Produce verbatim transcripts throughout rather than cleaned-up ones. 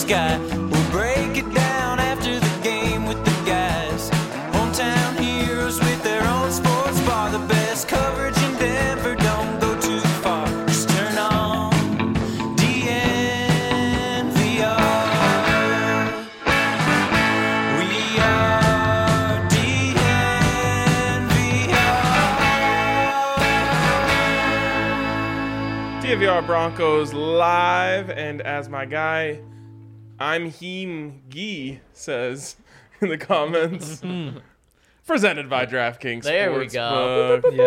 sky. We'll break it down after the game with the guys. Hometown heroes with their own sports bar. The best coverage in Denver, don't go too far. Just turn on D N V R. We are D N V R. D N V R Broncos live, and as my guy I'm Heem Gee says in the comments, presented by DraftKings. There we Sportsbook. go.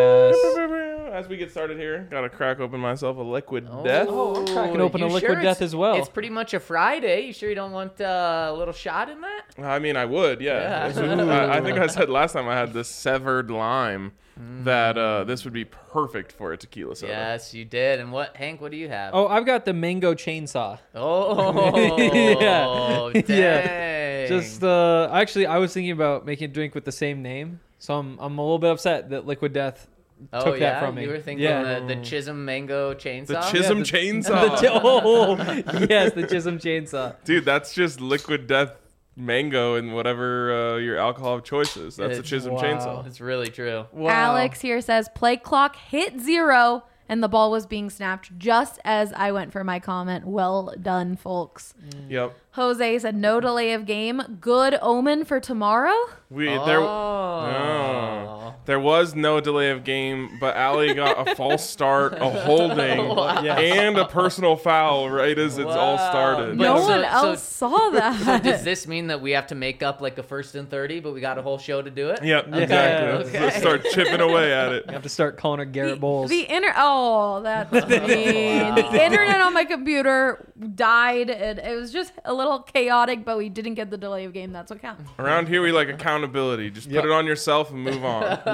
Yes. As we get started here, gotta crack open myself a liquid Oh, death. Oh, I'm cracking open you a liquid sure death it's- as well. It's pretty much a Friday. You sure you don't want uh, a little shot in that? I mean, I would, yeah. Yeah. This would- I, I think I said last time I had this severed lime that uh, this would be perfect for a tequila soda. Yes, you did. And what, Hank? What do you have? Oh, I've got the mango chainsaw. Oh, Yeah. dang. Yeah. Just uh, actually, I was thinking about making a drink with the same name, so I'm I'm a little bit upset that Liquid Death oh, took yeah? that from me. You were thinking yeah. the, the Chisholm Mango Chainsaw? The Chisholm the- chainsaw. The chi- oh, yes, the Chisholm chainsaw. Dude, that's just liquid death mango and whatever uh, your alcohol of choice is. That's a It's- Chisholm wow. chainsaw. It's really true. Wow. Alex here says play clock hit zero and the ball was being snapped just as I went for my comment. Well done, folks. Yep. Jose said no delay of game. Good omen for tomorrow. We there. Oh. No. There was no delay of game, but Allie got a false start, a holding, and a personal foul right as it's all Wow. started. But No so- one so- else saw that. So does this mean that we have to make up like a first and thirty, but we got a whole show to do it? Yep, Yeah. exactly. Okay. Let's start chipping away at it. You have to start calling her Garrett the, Bowles. the inter oh that's mean. Wow. The internet on my computer died and it was just a little chaotic, but we didn't get the delay of game. That's what counts. Around here, we like accountability. Just Yep. put it on yourself and move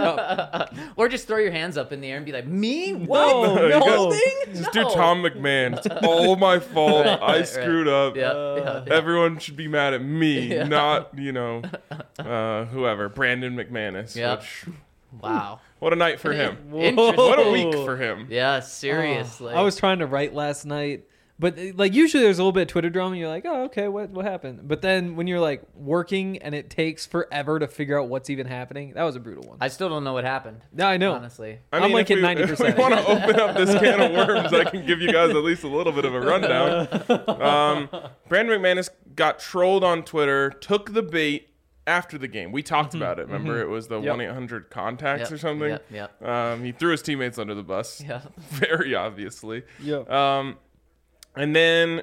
on. Or just throw your hands up in the air and be like, me? What? No, no. Holding? Just No. do Tom McMahon. It's all my fault. Right, I right, right. screwed up. Yeah, yeah, yeah. Everyone should be mad at me, Yeah. not, you know, uh, whoever. Brandon McManus. Yep. Which, Wow. what a night for him. Interesting. What a week for him. Yeah, seriously. I was trying to write last night, but like usually there's a little bit of Twitter drama. And you're like, oh, okay, what what happened? But then when you're like working and it takes forever to figure out what's even happening, that was a brutal one. I still don't know what happened. Yeah, I know. Honestly. I I'm mean, like if at we, ninety percent. If we want to open up this can of worms, I can give you guys at least a little bit of a rundown. Um, Brandon McManus got trolled on Twitter, took the bait after the game. We talked about it. Remember, it was the Yep. one eight hundred contacts Yep, or something? Yep, yep. Um, he threw his teammates under the bus. Yeah. Very obviously. Yeah. Um, and then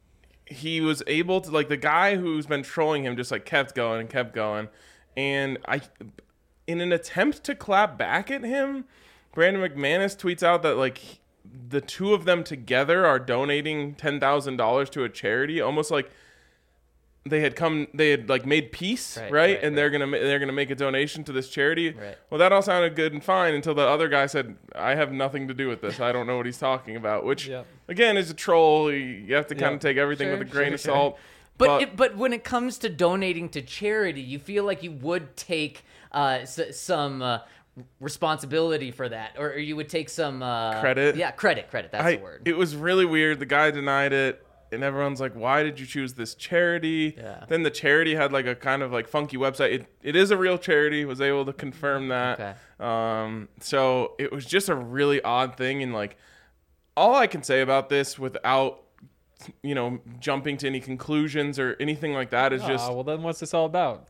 he was able to, like, the guy who's been trolling him just like kept going and kept going. And I, in an attempt to clap back at him, Brandon McManus tweets out that like the two of them together are donating ten thousand dollars to a charity, almost like they had come, they had like made peace, right? Right, right? right, and they're gonna ma- they're gonna make a donation to this charity. Right. Well, that all sounded good and fine until the other guy said, "I have nothing to do with this. I don't know what he's talking about." Which, Yep. again, is a troll. You you have to kind of Yep. take everything Sure, with a grain sure, of sure. salt. But But, it, but when it comes to donating to charity, you feel like you would take uh, s- some uh, responsibility for that, or, or you would take some uh, Credit? Yeah, credit, credit. That's I, the word. it was really weird. The guy denied it. And everyone's like, why did you choose this charity? Yeah. Then the charity had like a kind of like funky website. It, it is a real charity, was able to confirm that. Okay. Um, so it was just a really odd thing. And like, all I can say about this without, you know, jumping to any conclusions or anything like that is just, Ah, well, then what's this all about?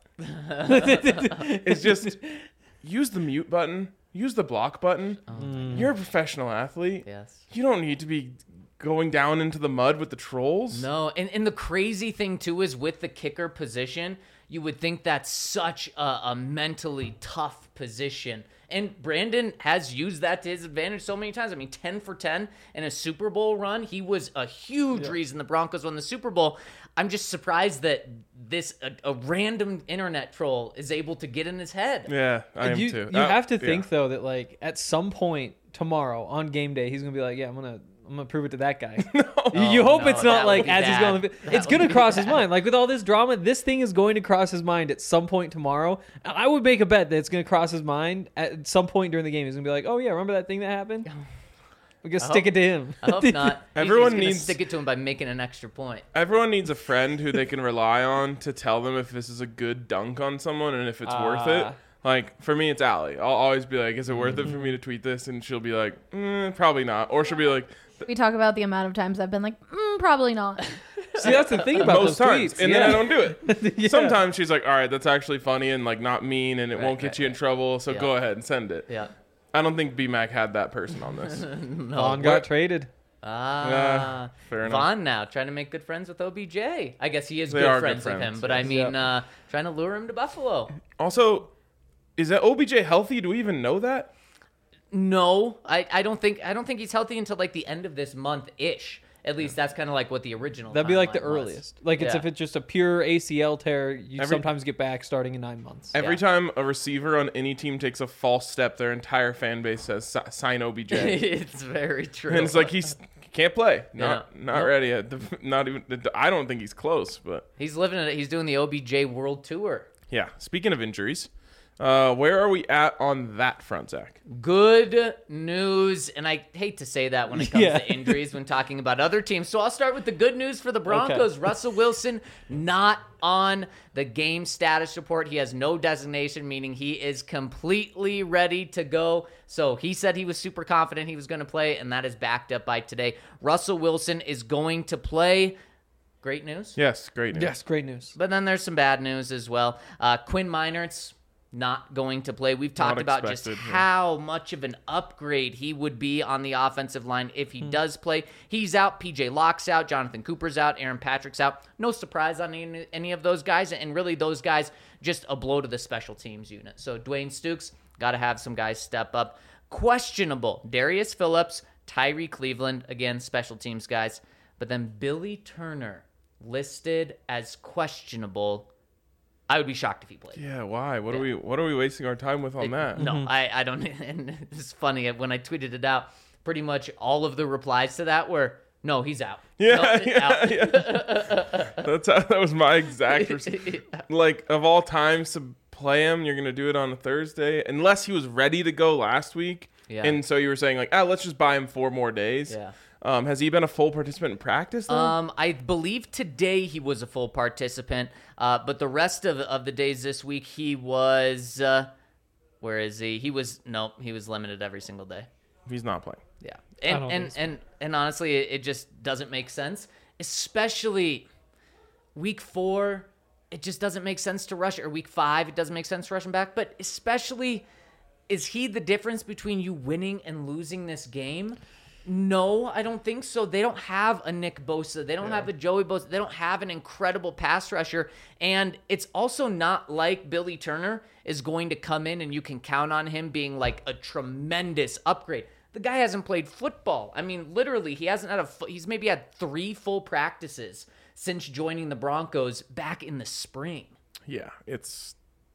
it's just use the mute button, use the block button. You're a professional athlete. Yes. You don't need to be going down into the mud with the trolls. No, and, and the crazy thing too is with the kicker position, you would think that's such a, a mentally tough position. And Brandon has used that to his advantage so many times. I mean, ten for ten in a Super Bowl run. He was a huge Yeah. reason the Broncos won the Super Bowl. I'm just surprised that this a, a random internet troll is able to get in his head. Yeah, I am you too. you Uh, have to yeah. think though that like at some point tomorrow on game day he's gonna be like, yeah, I'm gonna I'm gonna prove it to that guy. you, you Oh, hope no, it's that not would like be as he's bad. going. That It's would gonna be cross his bad. mind. Like with all this drama, this thing is going to cross his mind at some point tomorrow. And I would make a bet that it's gonna cross his mind at some point during the game. He's gonna be like, oh yeah, remember that thing that happened? We can I stick hope- it to him. I hope not. He's- Everyone he's gonna needs- stick it to him by making an extra point. Everyone needs a friend who they can rely on to tell them if this is a good dunk on someone and if it's worth it. Ah. Like, for me, it's Allie. I'll always be like, is it worth it for me to tweet this? And she'll be like, mm, probably not. Or she'll be like, We talk about the amount of times I've been like, mm, probably not. See, that's the thing about most those times. tweets. And yeah. then I don't do it. Yeah. Sometimes she's like, all right, that's actually funny and like not mean and it Right, won't get right, you in right. trouble. So Yeah. go ahead and send it. Yeah. I don't think B-Mac had that person on this. No. Vaughn got traded. Ah. Yeah, fair enough. Vaughn now trying to make good friends with O B J. I guess he is They good are good friends, with friends, him, but I yes. mean, Yep. uh, trying to lure him to Buffalo. Also, is that O B J healthy? Do we even know that? No, I, I don't think I don't think he's healthy until like the end of this month ish. At least that's kind of like what the original. That'd be like the timeline was. earliest. Like it's Yeah. if it's just a pure A C L tear, you Every- sometimes get back starting in nine months. Every Yeah. time a receiver on any team takes a false step, their entire fan base says, "Si- sign O B J. It's very true. And it's like he's can't play. Not Yeah. not Nope. ready. Yet. The- Not even. the- I don't think he's close. But he's living it. He's doing the O B J World Tour. yeah. Speaking of injuries, uh, where are we at on that front, Zach? Good news, and I hate to say that when it comes Yeah. to injuries when talking about other teams. So I'll start with the good news for the Broncos. Russell Wilson not on the game status report. He has no designation, meaning he is completely ready to go. So he said he was super confident he was going to play, and that is backed up by today. Russell Wilson is going to play. Great news. Yes, great news. Yes, great news. But then there's some bad news as well. Uh, Quinn Meinert's not going to play. We've talked Not about just expected, yeah. how much of an upgrade he would be on the offensive line if he does play. He's out. P J Locke's out. Jonathan Cooper's out. Aaron Patrick's out. No surprise on any, any of those guys. And really, those guys just a blow to the special teams unit. So Dwayne Stukes, got to have some guys step up. Questionable. Darius Phillips, Tyree Cleveland, again, special teams guys. But then Billy Turner listed as questionable. I would be shocked if he played. Yeah. Why? What Yeah. are we? What are we wasting our time with on that? No, I, I don't. And it's funny when I tweeted it out. Pretty much all of the replies to that were, "No, he's out." Yeah, No, he's yeah, out." yeah. That's how, that was my exact. Res- like of all times to play him, you're gonna do it on a Thursday, unless he was ready to go last week. Yeah. And so you were saying like, ah, let's just buy him four more days. Yeah. Um, has he been a full participant in practice? Though? Um, I believe today he was a full participant, uh, but the rest of of the days this week he was. Uh, where is he? He was no, he was limited every single day. He's not playing. Yeah, I and don't and, think so. and and honestly, it, it just doesn't make sense, especially week four. It just doesn't make sense to rush, or week five, it doesn't make sense to rush him back. But especially, is he the difference between you winning and losing this game? No, I don't think so. They don't have a Nick Bosa. They don't have a Joey Bosa. They don't have an incredible pass rusher. And it's also not like Billy Turner is going to come in and you can count on him being like a tremendous upgrade. The guy hasn't played football. I mean, literally, he hasn't had a. fu- He's maybe had three full practices since joining the Broncos back in the spring. Yeah, it's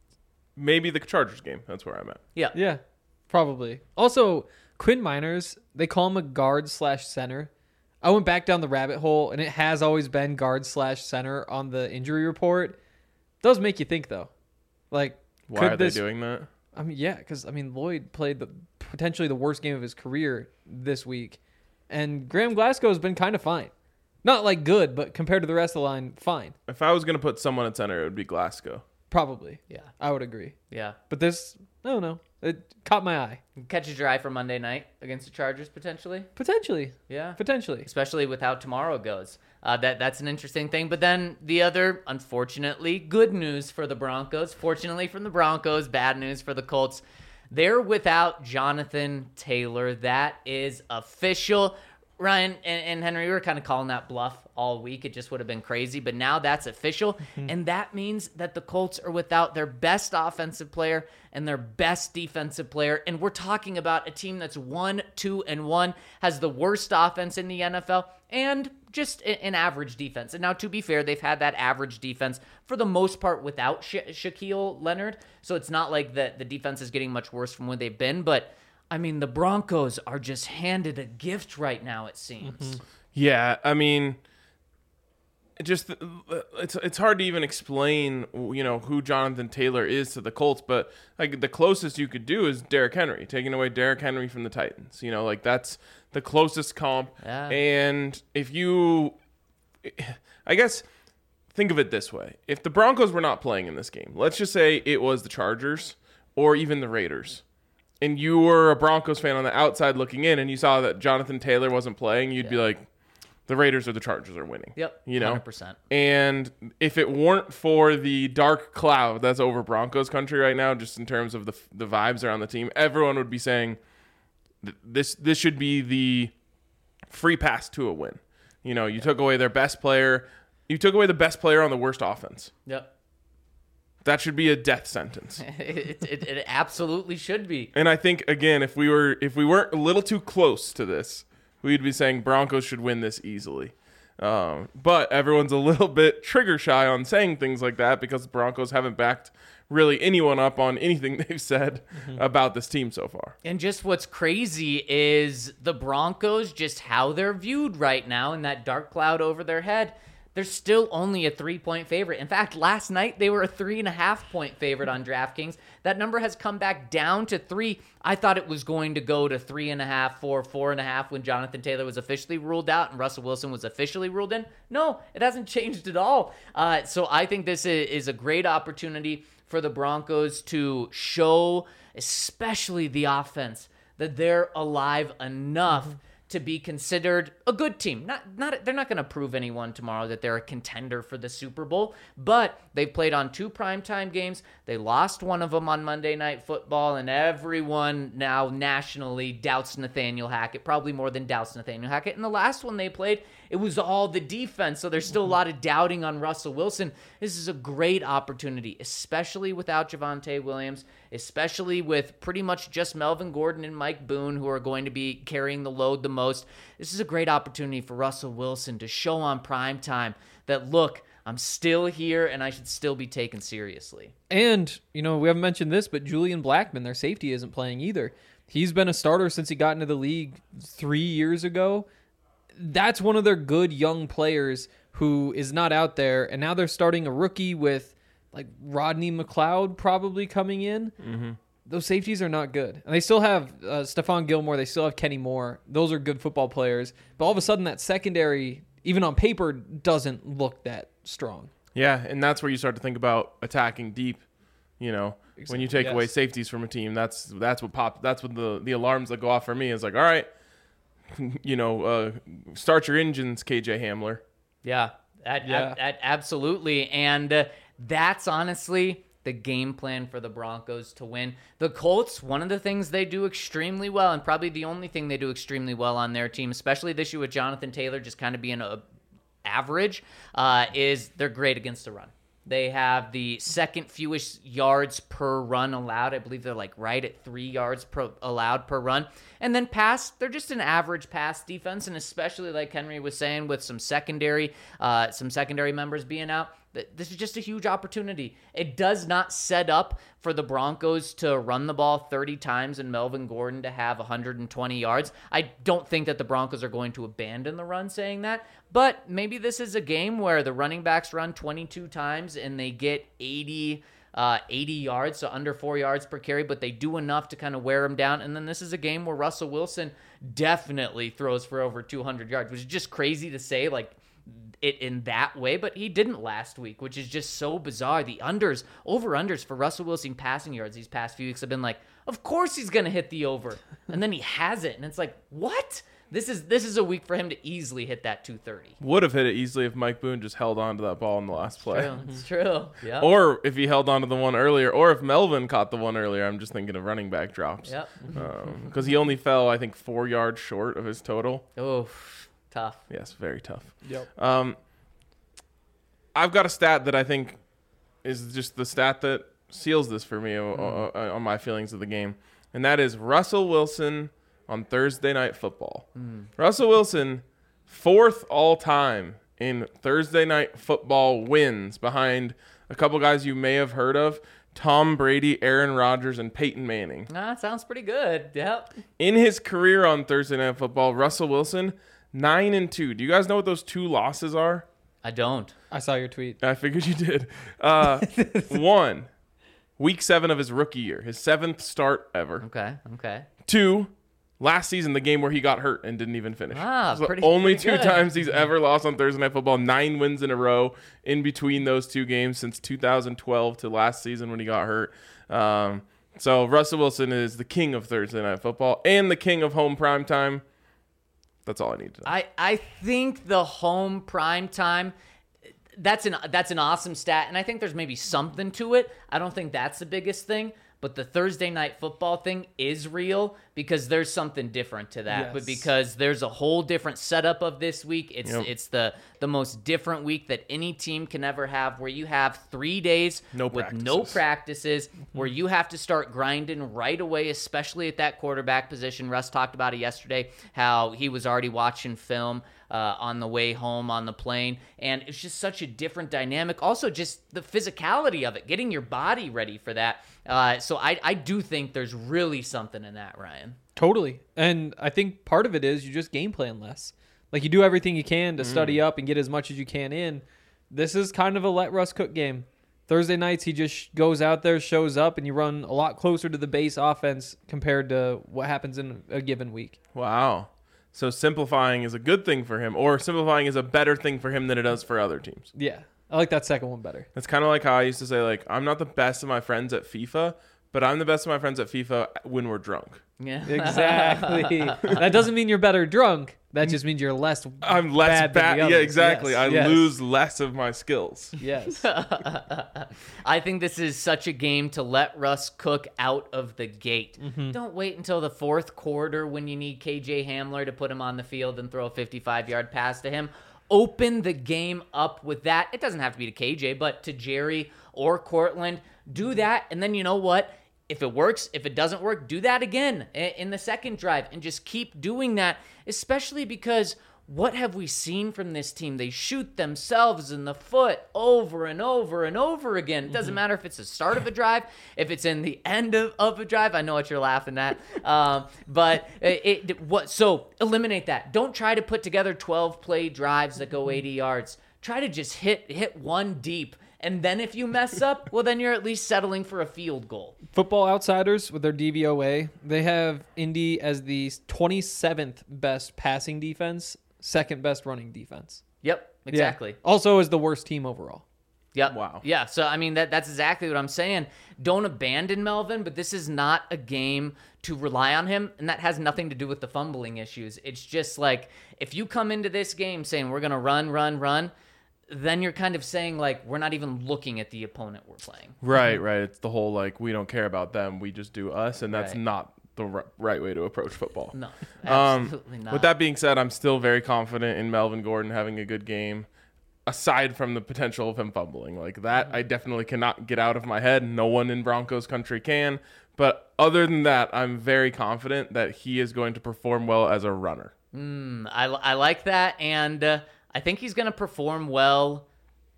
maybe the Chargers game. That's where I'm at. Yeah. Yeah, probably. Also, Quinn Miners, they call him a guard slash center. I went back down the rabbit hole, and it has always been guard slash center on the injury report. Does make you think though, like Why could are this, they doing that? I mean, yeah, because I mean Lloyd played the potentially the worst game of his career this week, and Graham Glasgow has been kind of fine. Not like good, but compared to the rest of the line, fine. If I was gonna put someone at center, it would be Glasgow. Probably. Yeah. I would agree. Yeah. But this, I don't know. It caught my eye. Catches your eye for Monday night against the Chargers potentially. Potentially. Yeah. Potentially. Especially with how tomorrow goes. Uh, that that's an interesting thing. But then the other, unfortunately, good news for the Broncos. Fortunately from the Broncos, bad news for the Colts. They're without Jonathan Taylor. That is official. Ryan and, and Henry, we were kind of calling that bluff all week. It just would have been crazy. But now that's official. And that means that the Colts are without their best offensive player and their best defensive player. And we're talking about a team that's one, two, and one, has the worst offense in the N F L, and just a- an average defense. And now, to be fair, they've had that average defense for the most part without Sha- Shaquille Leonard. So it's not like the, the defense is getting much worse from where they've been. But, I mean, the Broncos are just handed a gift right now, it seems. Yeah, I mean, just it's it's hard to even explain, you know, who Jonathan Taylor is to the Colts, but like the closest you could do is Derrick Henry, taking away Derrick Henry from the Titans. You know, like that's the closest comp. Yeah. And if you, I guess, think of it this way: if the Broncos were not playing in this game, let's just say it was the Chargers or even the Raiders, and you were a Broncos fan on the outside looking in, and you saw that Jonathan Taylor wasn't playing, you'd Yeah. be like, the Raiders or the Chargers are winning. Yep. You know? one hundred percent. And if it weren't for the dark cloud that's over Broncos country right now, just in terms of the the vibes around the team, everyone would be saying th- this this should be the free pass to a win. You know, you took away their best player. You took away the best player on the worst offense. Yep. That should be a death sentence. it, it, it absolutely should be. And I think, again, if we were if we weren't a little too close to this, we'd be saying Broncos should win this easily. Um, but everyone's a little bit trigger shy on saying things like that because the Broncos haven't backed really anyone up on anything they've said mm-hmm. about this team so far. And just what's crazy is the Broncos, just how they're viewed right now in that dark cloud over their head. They're still only a three-point favorite. In fact, last night they were a three-and-a-half-point favorite on DraftKings. That number has come back down to three. I thought it was going to go to three and a half, four, four and a half when Jonathan Taylor was officially ruled out and Russell Wilson was officially ruled in. No, it hasn't changed at all. Uh, so I think this is a great opportunity for the Broncos to show, especially the offense, that they're alive enough mm-hmm. to be considered a good team. Not, not, they're not going to prove anyone tomorrow that they're a contender for the Super Bowl, but they've played on two primetime games. They lost one of them on Monday Night Football, and everyone now nationally doubts Nathaniel Hackett, probably more than doubts Nathaniel Hackett. And the last one they played, it was all the defense, so there's still a lot of doubting on Russell Wilson. This is a great opportunity, especially without Javonte Williams, especially with pretty much just Melvin Gordon and Mike Boone, who are going to be carrying the load the most. This is a great opportunity for Russell Wilson to show on primetime that, look, I'm still here and I should still be taken seriously. And, you know, we haven't mentioned this, but Julian Blackmon, their safety, isn't playing either. He's been a starter since he got into the league three years ago. That's one of their good young players who is not out there, and now they're starting a rookie with like Rodney McLeod probably coming in. Mm-hmm. Those safeties are not good. And they still have uh, Stephon Gilmore. They still have Kenny Moore. Those are good football players. But all of a sudden that secondary, even on paper, doesn't look that strong. Yeah, and that's where you start to think about attacking deep. You know, exactly. When you take yes. away safeties from a team, that's that's what pop. That's what the, the alarms that go off for me is like, all right, you know, uh, start your engines, K J Hamler. Yeah, that, yeah. That, that, absolutely. And uh, that's honestly the game plan for the Broncos to win. The Colts, one of the things they do extremely well, and probably the only thing they do extremely well on their team, especially this year with Jonathan Taylor just kind of being a average, uh, is they're great against the run. They have the second fewest yards per run allowed. I believe they're like right at three yards per, allowed per run. And then pass, they're just an average pass defense, and especially like Henry was saying with some secondary, uh, some secondary members being out, this is just a huge opportunity. It does not set up for the Broncos to run the ball thirty times and Melvin Gordon to have one hundred twenty yards. I don't think that the Broncos are going to abandon the run saying that, but maybe this is a game where the running backs run twenty-two times and they get eighty, uh, eighty yards, so under four yards per carry, but they do enough to kind of wear them down. And then this is a game where Russell Wilson definitely throws for over two hundred yards, which is just crazy to say, like, it in that way, but he didn't last week, which is just so bizarre. The unders, over-unders for Russell Wilson passing yards these past few weeks have been like, of course he's going to hit the over, and then he has it, and it's like, what? This is this is a week for him to easily hit that two thirty. Would have hit it easily if Mike Boone just held on to that ball in the last play. True, it's true. Yeah. Or if he held on to the one earlier, or if Melvin caught the one earlier. I'm just thinking of running back drops. Yep. Because um, he only fell, I think, four yards short of his total. Oh, tough. Yes, very tough. Yep. Um, I've got a stat that I think is just the stat that seals this for me mm. on my feelings of the game, and that is Russell Wilson on Thursday Night Football. Mm. Russell Wilson, fourth all-time in Thursday Night Football wins behind a couple guys you may have heard of, Tom Brady, Aaron Rodgers, and Peyton Manning. Ah, that sounds pretty good. Yep. In his career on Thursday Night Football, Russell Wilson, nine and two. Do you guys know what those two losses are? I don't. I saw your tweet. I figured you did. Uh, one, week seven of his rookie year, his seventh start ever. Okay. Okay. Two, last season, the game where he got hurt and didn't even finish. Ah, So pretty- only pretty two good. times he's ever lost on Thursday Night Football. Nine wins in a row in between those two games since two thousand twelve to last season when he got hurt. Um, so Russell Wilson is the king of Thursday Night Football and the king of home primetime. That's all I need to know. I, I think the home prime time, that's an that's an awesome stat, and I think there's maybe something to it. I don't think that's the biggest thing, but the Thursday Night Football thing is real because there's something different to that. Yes. But because there's a whole different setup of this week, it's Yep. it's the the most different week that any team can ever have, where you have three days No with no practices. practices, where you have to start grinding right away, especially at that quarterback position. Russ talked about it yesterday, how he was already watching film uh, on the way home on the plane, and it's just such a different dynamic. Also, just the physicality of it, getting your body ready for that. Uh, so I, I do think there's really something in that, Ryan. Totally. And I think part of it is you just game plan less. Like you do everything you can to study up and get as much as you can in. This is kind of a let Russ cook game. Thursday nights, he just goes out there, shows up, and you run a lot closer to the base offense compared to what happens in a given week. Wow. So simplifying is a good thing for him, or simplifying is a better thing for him than it is for other teams. Yeah. I like that second one better. It's kind of like how I used to say, like, I'm not the best of my friends at FIFA, but I'm the best of my friends at FIFA when we're drunk. Yeah. Exactly. That doesn't mean you're better drunk. That just means you're less I'm less bad bad. than the Yeah, others. exactly. Yes, I yes. lose less of my skills. Yes. I think this is such a game to let Russ cook out of the gate. Don't wait until the fourth quarter when you need K J Hamler to put him on the field and throw a fifty-five-yard pass to him. Open the game up with that. It doesn't have to be to K J, but to Jerry or Cortland. Do that, and then you know what? If it works, if it doesn't work, do that again i- in the second drive and just keep doing that, especially because what have we seen from this team? They shoot themselves in the foot over and over and over again. It doesn't matter if it's the start of a drive, if it's in the end of, of a drive. I know what you're laughing at. Um, but it, it what so eliminate that. Don't try to put together twelve play drives that go eighty yards. Try to just hit hit one deep. And then if you mess up, well, then you're at least settling for a field goal. Football Outsiders with their D V O A, they have Indy as the twenty-seventh best passing defense, second best running defense. Yep, exactly. Yeah. Also is the worst team overall. Yep. Wow. Yeah. So I mean that that's exactly what I'm saying. Don't abandon Melvin, but this is not a game to rely on him, and that has nothing to do with the fumbling issues. It's just like if you come into this game saying we're gonna run, run, run, then you're kind of saying like we're not even looking at the opponent we're playing. Right, right. It's the whole, like, we don't care about them. We just do us, and that's Right. not the r- right way to approach football. No, Um, absolutely not. With that being said, I'm still very confident in Melvin Gordon having a good game, aside from the potential of him fumbling. Like, that I definitely cannot get out of my head. No one in Broncos country can. But other than that, I'm very confident that he is going to perform well as a runner. Mm, I, I like that, and uh, I think he's going to perform well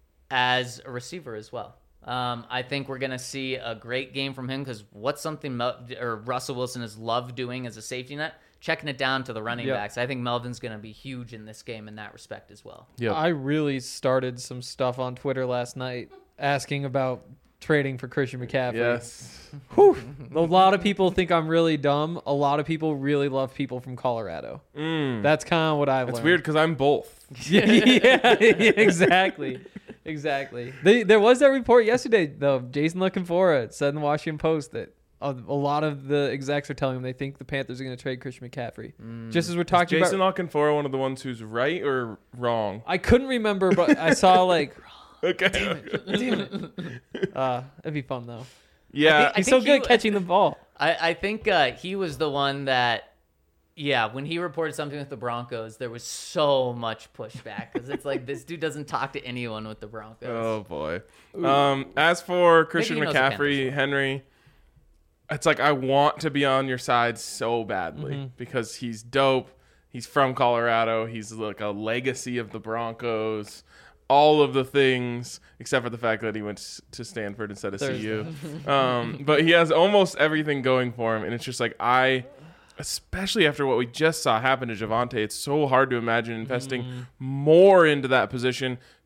as a receiver as well. Um, I think we're going to see a great game from him because what's something Mel- or Russell Wilson has loved doing as a safety net? Checking it down to the running Yeah. backs. I think Melvin's going to be huge in this game in that respect as well. Yep. I really started some stuff on Twitter last night asking about trading for Christian McCaffrey. Yes. Whew. A lot of people think I'm really dumb. A lot of people really love people from Colorado. Mm. That's kind of what I've It's learned. weird because I'm both. yeah, yeah, exactly. Exactly. They, there was that report yesterday, though. Jason Looking-For-It said in the Washington Post that a, a lot of the execs are telling him they think the Panthers are going to trade Christian McCaffrey. Just as we're talking Jason about. Lockenfora one of the ones who's right or wrong? I couldn't remember, but I saw like. Okay. Damn it. Uh, that'd be fun though. Yeah. I He's think so good he- at catching the ball. I, I think uh, he was the one that, yeah, when he reported something with the Broncos, there was so much pushback because it's like this dude doesn't talk to anyone with the Broncos. Oh boy. Um, as for Christian he knows the Panthers McCaffrey, well. Henry, it's like I want to be on your side so badly Mm-hmm. because he's dope. He's from Colorado. He's like a legacy of the Broncos. All of the things, except for the fact that he went s- to Stanford instead of There's C U. Um, but he has almost everything going for him, and it's just like I. Especially after what we just saw happen to Javonte, it's so hard to imagine investing more into that position,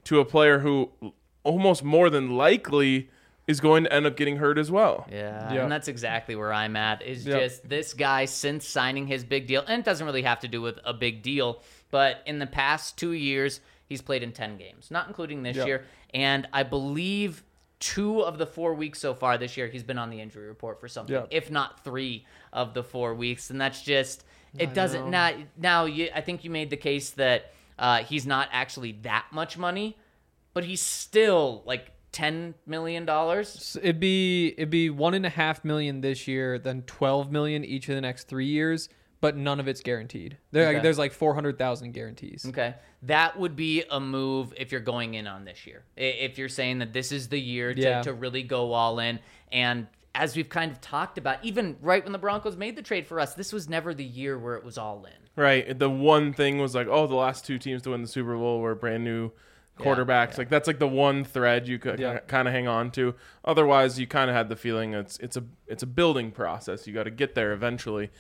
to a player who almost more than likely is going to end up getting hurt as well. Yeah, Yeah. and that's exactly where I'm at. Is Yep. just this guy since signing his big deal, and it doesn't really have to do with a big deal, but in the past two years, he's played in ten games, not including this Yep. year. And I believe two of the four weeks so far this year, he's been on the injury report for something, Yep. if not three of the four weeks. And that's just, it doesn't, now, now you, I think you made the case that uh, he's not actually that much money, but he's still like ten million dollars. So it'd be it'd be one and a half million this year, then twelve million each of the next three years, but none of it's guaranteed. There, Okay. There's like four hundred thousand guarantees. Okay. That would be a move if you're going in on this year. I- If you're saying that this is the year to, Yeah. to really go all in. And as we've kind of talked about, even right when the Broncos made the trade for us, this was never the year where it was all in. Right. The one thing was like, oh, the last two teams to win the Super Bowl were brand new quarterbacks. yeah. Like that's like the one thread you could Yeah. kind of hang on to. Otherwise, you kind of had the feeling it's it's a it's a building process. You got to get there eventually.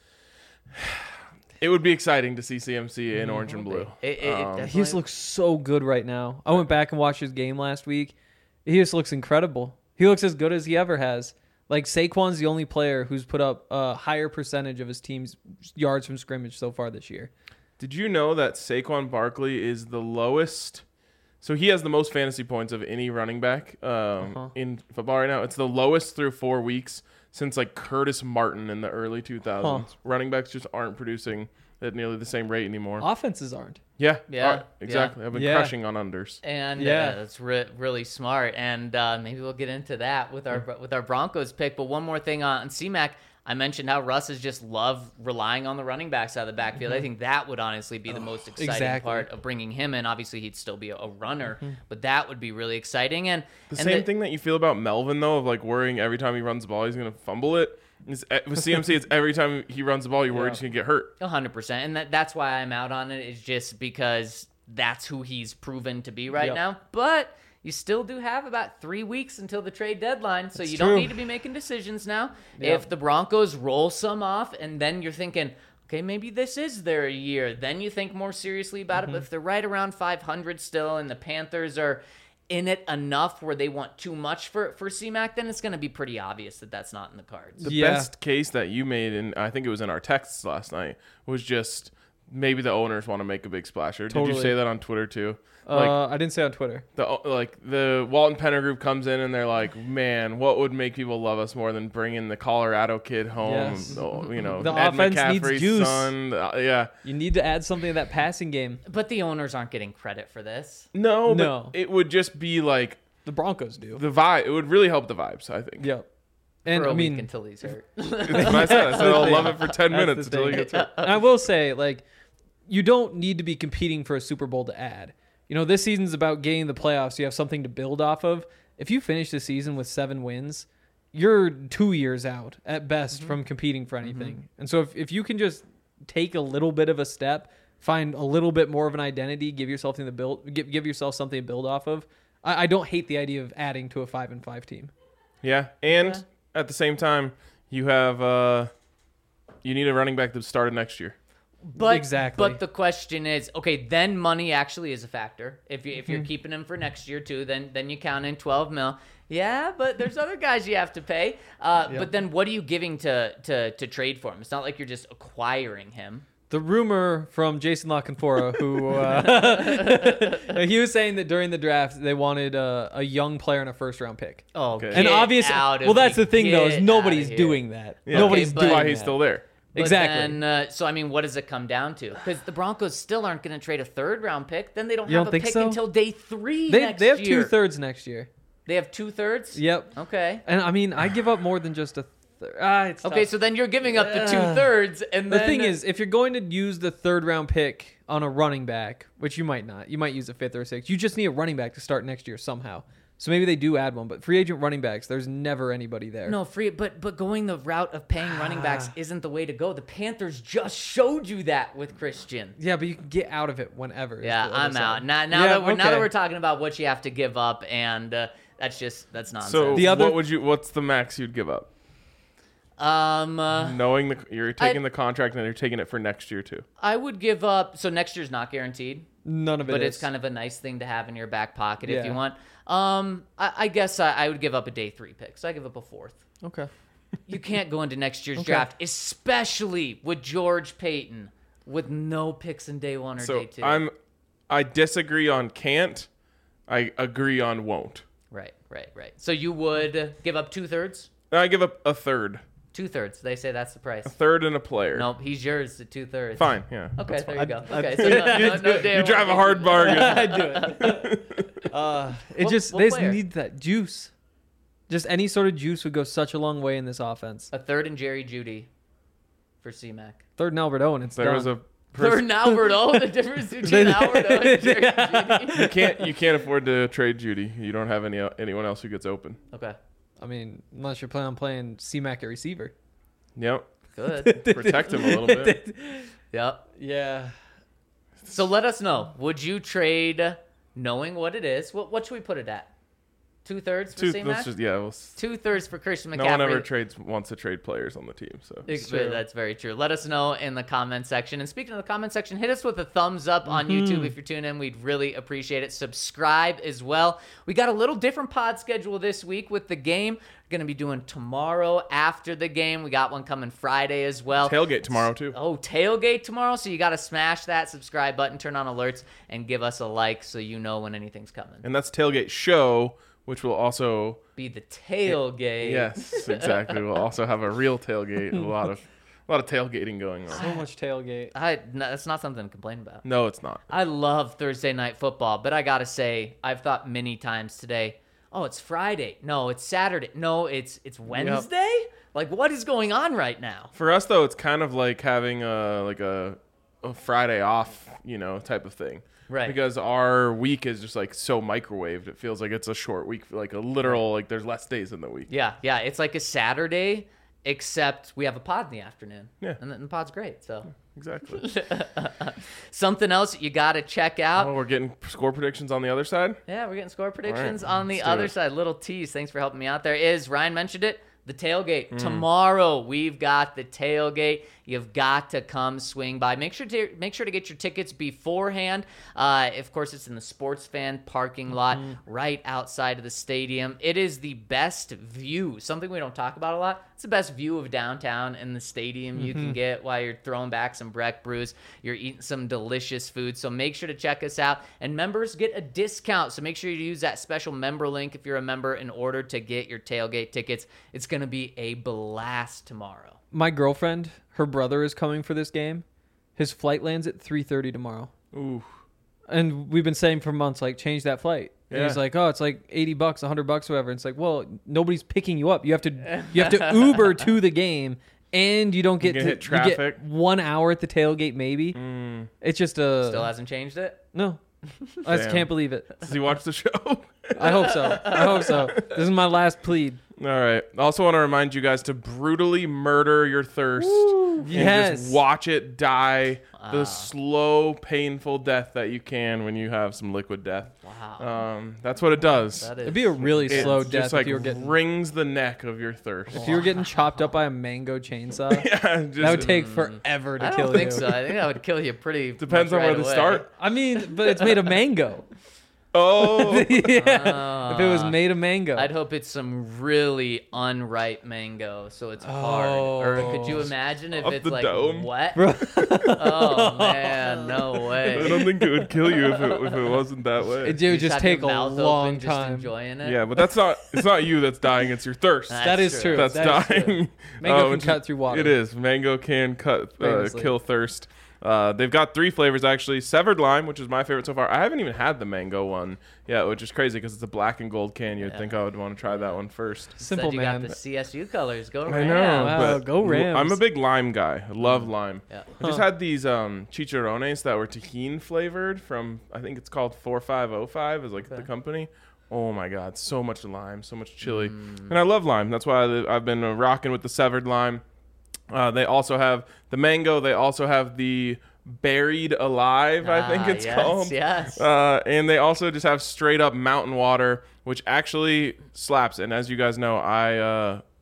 It would be exciting to see C M C in orange and blue. It, it, it Um, definitely- He just looks so good right now. I went back and watched his game last week. He just looks incredible. He looks as good as he ever has. Like Saquon's the only player who's put up a higher percentage of his team's yards from scrimmage so far this year. Did you know that Saquon Barkley is the lowest? So he has the most fantasy points of any running back um, Uh-huh. in football right now. It's the lowest through four weeks since like Curtis Martin in the early two thousands. Huh. Running backs just aren't producing at nearly the same rate anymore. Offenses aren't. Yeah, Yeah, uh, exactly. I've been Yeah. crushing on unders. And Yeah. yeah, that's re- really smart. And uh, maybe we'll get into that with our with our Broncos pick. But one more thing on, on C-Mac, I mentioned how Russ has just loved relying on the running backs out of the backfield. I think that would honestly be the most exciting exactly. part of bringing him in. Obviously, he'd still be a, a runner, but that would be really exciting. And The and same the- thing that you feel about Melvin, though, of like worrying every time he runs the ball, he's going to fumble it. It's, with C M C, it's every time he runs the ball, you're worried Yeah. he's going to get hurt. A hundred percent, and that, that's why I'm out on it. Is just because that's who he's proven to be right Yep. now. But you still do have about three weeks until the trade deadline, so That's you true. don't need to be making decisions now. Yep. If the Broncos roll some off, and then you're thinking, okay, maybe this is their year, then you think more seriously about Mm-hmm. it. But if they're right around five hundred still, and the Panthers are in it enough where they want too much for for C-Mac, then it's going to be pretty obvious that that's not in the cards. The Yeah. best case that you made, and I think it was in our texts last night, was just maybe the owners want to make a big splash. Or did you Totally. say that on Twitter too? Like Uh, I didn't say on Twitter. the like the Walton Penner group comes in and they're like, man, what would make people love us more than bringing the Colorado kid home? Yes. Oh, you know, The Ed offense needs McCaffrey's juice. son. Uh, yeah, You need to add something to that passing game. But the owners aren't getting credit for this. no, but No. it would just be like The Broncos do. the vibe. It would really help the vibes. I think. Yep. And for a I mean, week until he's hurt. That's what I said. I said I'll thing. love it for ten That's minutes the until he thing. gets hurt. and I will say, like, you don't need to be competing for a Super Bowl to add. You know, this season's about getting the playoffs. You have something to build off of. If you finish the season with seven wins, you're two years out at best Mm-hmm. from competing for anything. And so if, if you can just take a little bit of a step, find a little bit more of an identity, give yourself something to build, give, give yourself something to build off of. I, I don't hate the idea of adding to a five and five team. Yeah, and Yeah. at the same time, you have uh, you need a running back that started next year. But Exactly. But the question is, okay, then money actually is a factor. If you if Mm-hmm. you're keeping him for next year too, then then you count in twelve mil. Yeah, but there's other guys you have to pay. Uh, Yep. But then what are you giving to to to trade for him? It's not like you're just acquiring him. The rumor from Jason LaCanfora, who uh, he was saying that during the draft they wanted uh, a young player and a first round pick. Oh, Okay. And get obviously, out of well, that's here. the thing though, Get is nobody's outta here. doing that. Yeah. Nobody's Okay, but- doing Why he's that. still there? But Exactly. Then, uh, so I mean, what does it come down to? Because the Broncos still aren't going to trade a third round pick. Then they don't You have don't a think pick so? until day three They next they have year. two thirds next year. They have two thirds. Yep. Okay. And I mean, I give up more than just a. Th- ah, it's Okay, tough. so then you're giving up the two Ugh. thirds, and The then thing is, if you're going to use the third round pick on a running back, which you might not, you might use a fifth or a sixth. You just need a running back to start next year somehow. So maybe they do add one, but free agent running backs, there's never anybody there. no free, but but going the route of paying running backs Ah. isn't the way to go. The Panthers just showed you that with Christian. Yeah, but you can get out of it whenever. is Yeah, what I'm I'm out. saying. Now, now Yeah, that we're now okay. that we're talking about what you have to give up, and uh, that's just that's nonsense. So The other- what would you? What's the max you'd give up? Um, uh, Knowing the you're taking I- the contract and you're taking it for next year too. I would give up. So next year's not guaranteed, None of it but is. it's kind of a nice thing to have in your back pocket if Yeah. you want. Um, I, I guess I, I would give up a day three pick. So I give up a fourth. Okay. You can't go into next year's Okay. draft, especially with George Payton, with no picks in day one or So day two. I'm I disagree on can't. I agree on won't. Right, right, right. So you would give up two thirds? I give up a third. Two thirds. They say that's the price. A third and a player. Nope, he's yours at two thirds. Fine, yeah. Okay, that's there fine. you go. I- Okay, so no, no, no day You drive a one. hard bargain. I do it. Uh, it What- just what they just player? need that juice. Just any sort of juice would go such a long way in this offense. A third and Jerry Judy for C-Mac. Third and Albert Owen, it's There done. was a Third person, and Albert O, the difference between Albert O and Jerry Judy. you can't you can't afford to trade Judy. You don't have any anyone else who gets open. Okay, I mean, unless you're planning on playing C-Mac at receiver. Yep. good. Protect him a little bit. Yep. Yeah. So let us know. Would you trade knowing what it is? What, what should we put it at? Two thirds for Two, C-Mac? let's just yeah. We'll, s- Two thirds for Christian McCaffrey. no one ever trades wants to trade players on the team. So Ex- true. That's very true. Let us know in the comment section. And speaking of the comment section, hit us with a thumbs up on Mm-hmm. YouTube if you're tuning in. We'd really appreciate it. Subscribe as well. We got a little different pod schedule this week with the game. We're going to be doing tomorrow after the game. We got one coming Friday as well. tailgate tomorrow too. Oh, tailgate tomorrow. So you got to smash that subscribe button, turn on alerts, and give us a like so you know when anything's coming. And that's tailgate show, which will also Be the tailgate. yes, exactly. We'll also have a real tailgate. A lot of a lot of tailgating going on. So much tailgate. I, no, that's not something to complain about. No, it's not. I love Thursday night football, but I gotta say, I've thought many times today, oh, it's Friday. No, it's Saturday. No, it's it's Wednesday? Like, what is going on right now? For us though, it's kind of like having a like a, a Friday off, you know, type of thing. Right. Because our week is just like so microwaved. It feels like it's a short week, like a literal like there's less days in the week. Yeah, yeah, it's like a Saturday, except we have a pod in the afternoon. Yeah. And the, and the pod's great, so. Exactly. Something else you gotta check out. Oh, we're getting score predictions on the other side. Yeah, we're getting score predictions right, on the let's do other it. side. Little tease. Thanks for helping me out there. Is Ryan mentioned it? The tailgate. Mm. Tomorrow we've got the tailgate. You've got to come swing by. Make sure to make sure to get your tickets beforehand. Uh, of course, it's in the Sports Fan parking lot right outside of the stadium. It is the best view. Something we don't talk about a lot. It's the best view of downtown in the stadium you can get while you're throwing back some Breck brews. You're eating some delicious food. So make sure to check us out. And members get a discount. So make sure you use that special member link if you're a member in order to get your tailgate tickets. It's going to be a blast tomorrow. My girlfriend, her brother is coming for this game. His flight lands at three thirty tomorrow. Ooh. And we've been saying for months, like, change that flight. And Yeah. he's like, oh, it's like eighty bucks, one hundred bucks, whatever. And it's like, well, nobody's picking you up. You have to you have to Uber to the game, and you don't get You to get hit you get traffic. one hour at the tailgate, maybe. Mm. It's just a... Still hasn't changed it? No. I just Damn. can't believe it. Does he watch the show? I hope so. I hope so. This is my last plead. All right. I also want to remind you guys to brutally murder your thirst and Yes. just watch it die Wow. the slow, painful death that you can when you have some liquid death. Wow. Um, that's what it does. That is It'd be a really It slow just death like if you were getting wrings the neck of your thirst. if you were getting chopped up by a mango chainsaw. Yeah, just, That would take forever to I kill don't think you. so. I think that would kill you pretty depends much on where right to away. start. I mean, but it's made of mango. Oh, yeah. If it was Ah. made of mango. I'd hope it's some really unripe mango, so it's hard. Or could you Oh. imagine if Up it's the like dome. wet? Bro. Oh man, no I way. don't think it would kill you if it, if it wasn't that way. It You would just have take a your mouth long open, just time. enjoying it. Yeah, but that's not. It's not you that's dying. It's your thirst. That's That is true. That's That is true. dying. Mango Um, can cut through water. It is. Mango can cut, uh, Famously. kill thirst. Uh, they've got three flavors actually. Severed lime, which is my favorite so far. I haven't even had the mango one yet, which is crazy because it's a black and gold can. You'd Yeah. think I would want to try that one first. Simple Said you man. got the C S U colors. Go I Rams. know, Wow, but go Rams. I'm a big lime guy. I love lime. Yeah. I just Huh. had these um, chicharrones that were tahini flavored from I think it's called four five oh five is like the Okay. company. Oh my god, so much lime, so much chili, Mm. and I love lime. That's why I, I've been uh, rocking with the severed lime. Uh, they also have the mango. They also have the buried alive. I think Ah, it's yes, called. Yes. Uh, and they also just have straight up mountain water, which actually slaps. And as you guys know, I uh,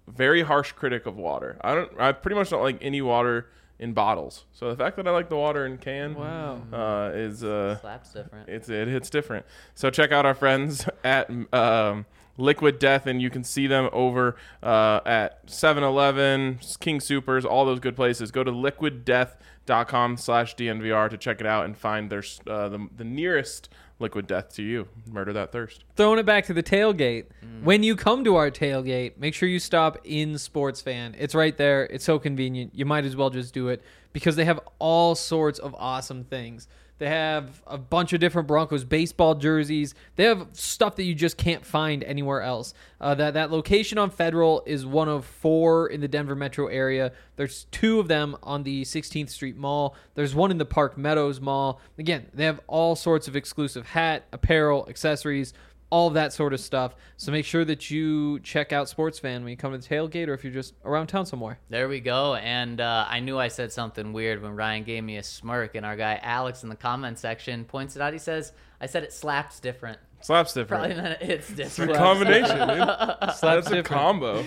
very harsh critic of water. I don't. I pretty much don't like any water in bottles. So the fact that I like the water in can, Wow. uh, is uh, Slap's different. it's it hits different. So check out our friends at um, Liquid Death, and you can see them over uh, at seven eleven, King Supers, all those good places. Go to liquid death dot com slash D N V R to check it out and find their uh, the, the nearest Liquid Death to you. Murder that thirst. Throwing it back to the tailgate. When you come to our tailgate, make sure you stop in Sports Fan. It's right there. It's so convenient. You might as well just do it because they have all sorts of awesome things. They have a bunch of different Broncos baseball jerseys. They have stuff that you just can't find anywhere else. Uh, that, that location on Federal is one of four in the Denver metro area. There's two of them on the sixteenth Street Mall. There's one in the Park Meadows Mall. Again, they have all sorts of exclusive hat, apparel, accessories, all of that sort of stuff. So make sure that you check out Sports Fan when you come to the tailgate or if you're just around town somewhere. There we go. And uh, I knew I said something weird when Ryan gave me a smirk, and our guy Alex in the comment section points it out. He says, I said it slaps different. Slaps different. Probably meant it's It's a different. combination, dude. Slaps That's a different. combo.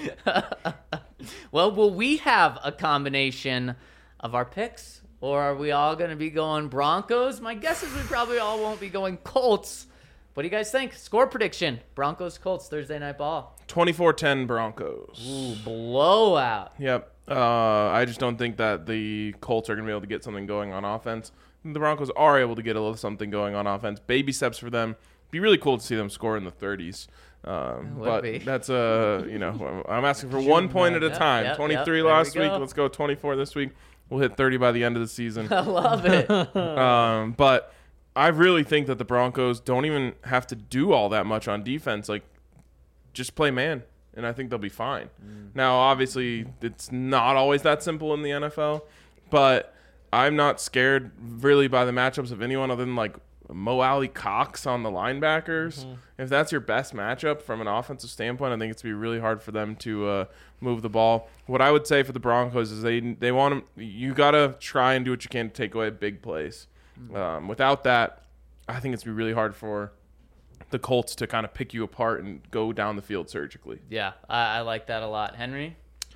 Well, will we have a combination of our picks? Or are we all going to be going Broncos? My guess is we probably all won't be going Colts. What do you guys think? Score prediction. Broncos, Colts, Thursday Night Ball. twenty-four ten Broncos. Ooh, blowout. Yep. Uh, I just don't think that the Colts are going to be able to get something going on offense. The Broncos are able to get a little something going on offense. Baby steps for them. Be really cool to see them score in the thirties. Um, would but be. that's uh, you know, I'm asking for one point at a Yep, time. yep, twenty-three yep, there last we week. go. Let's go twenty-four this week. We'll hit thirty by the end of the season. I love it. Um, but I really think that the Broncos don't even have to do all that much on defense. Like, just play man, and I think they'll be fine. Mm. Now, obviously, it's not always that simple in the N F L, but I'm not scared really by the matchups of anyone other than like Mo Alley Cox on the linebackers. Mm-hmm. If that's your best matchup from an offensive standpoint, I think it's going to be really hard for them to uh, move the ball. What I would say for the Broncos is they they want them. You got to try and do what you can to take away big plays. Um, without that, I think it's going to be really hard for the Colts to kind of pick you apart and go down the field surgically. Yeah, I, I like that a lot. Henry?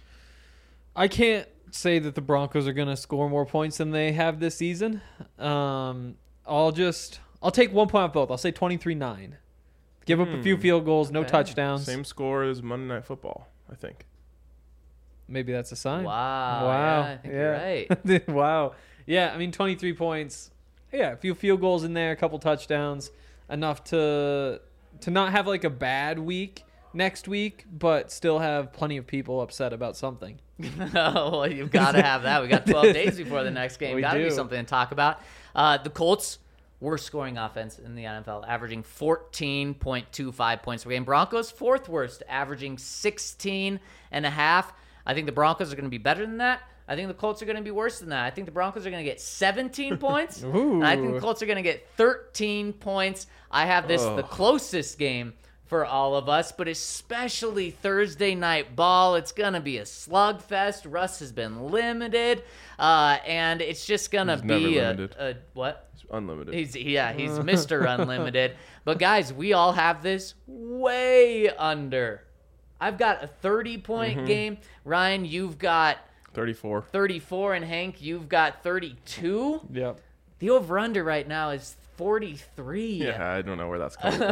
I can't say that the Broncos are going to score more points than they have this season. Um, I'll just I'll take one point off both. I'll say twenty-three nine. Give up a few field goals, no Okay. touchdowns. Same score as Monday Night Football, I think. Maybe that's a sign. Wow. Wow. Yeah, I think you're right. Wow. Yeah, I mean twenty-three points. Yeah, a few field goals in there, a couple touchdowns, enough to to not have like a bad week next week, but still have plenty of people upset about something. Oh, well, you've got to have that. We got twelve days before the next game. We Got to be do. something to talk about. Uh, the Colts, worst scoring offense in the N F L, averaging fourteen point two five points per game. Broncos, fourth worst, averaging sixteen and a half. I think the Broncos are going to be better than that. I think the Colts are going to be worse than that. I think the Broncos are going to get seventeen points. Ooh. And I think the Colts are going to get thirteen points. I have this the closest game for all of us, but especially Thursday Night Ball. It's going to be a slugfest. Russ has been limited, uh, and it's just going to He's never be a, limited. a what? It's unlimited. He's yeah, he's Mister Unlimited. But guys, we all have this way under. I've got a thirty-point Mm-hmm. game. Ryan, you've got thirty-four. thirty-four, and Hank, you've got thirty-two. Yep. The over-under right now is forty-three. Yeah, I don't know where that's coming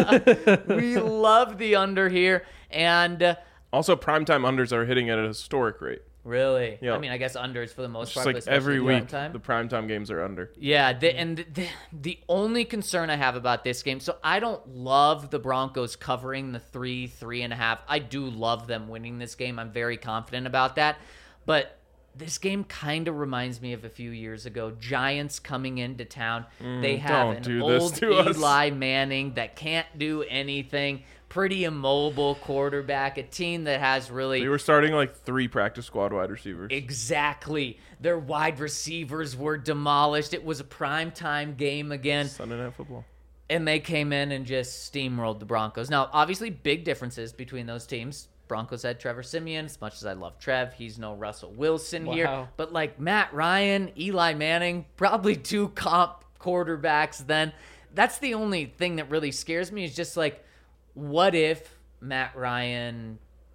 from. We love the under here, and uh, Also, primetime unders are hitting at a historic rate. really, Yeah. I mean, I guess unders for the most Just part. like but especially every in week, primetime. the primetime games are under. Yeah, the, and the, the only concern I have about this game, so I don't love the Broncos covering the three, three and a half. I do love them winning this game. I'm very confident about that. But this game kind of reminds me of a few years ago. Giants coming into town. they have don't an do this old to us. Eli Manning that can't do anything. Pretty immobile quarterback. A team that has really They were starting like three practice squad wide receivers. Exactly. Their wide receivers were demolished. It was a primetime game again, Sunday Night Football. and they came in and just steamrolled the Broncos. Now, obviously, big differences between those teams. Broncos had Trevor Siemian. As much as I love Trev, he's no Russell Wilson here. Wow. But like Matt Ryan, Eli Manning, probably two comp quarterbacks then. That's the only thing that really scares me is just like, what if Matt Ryan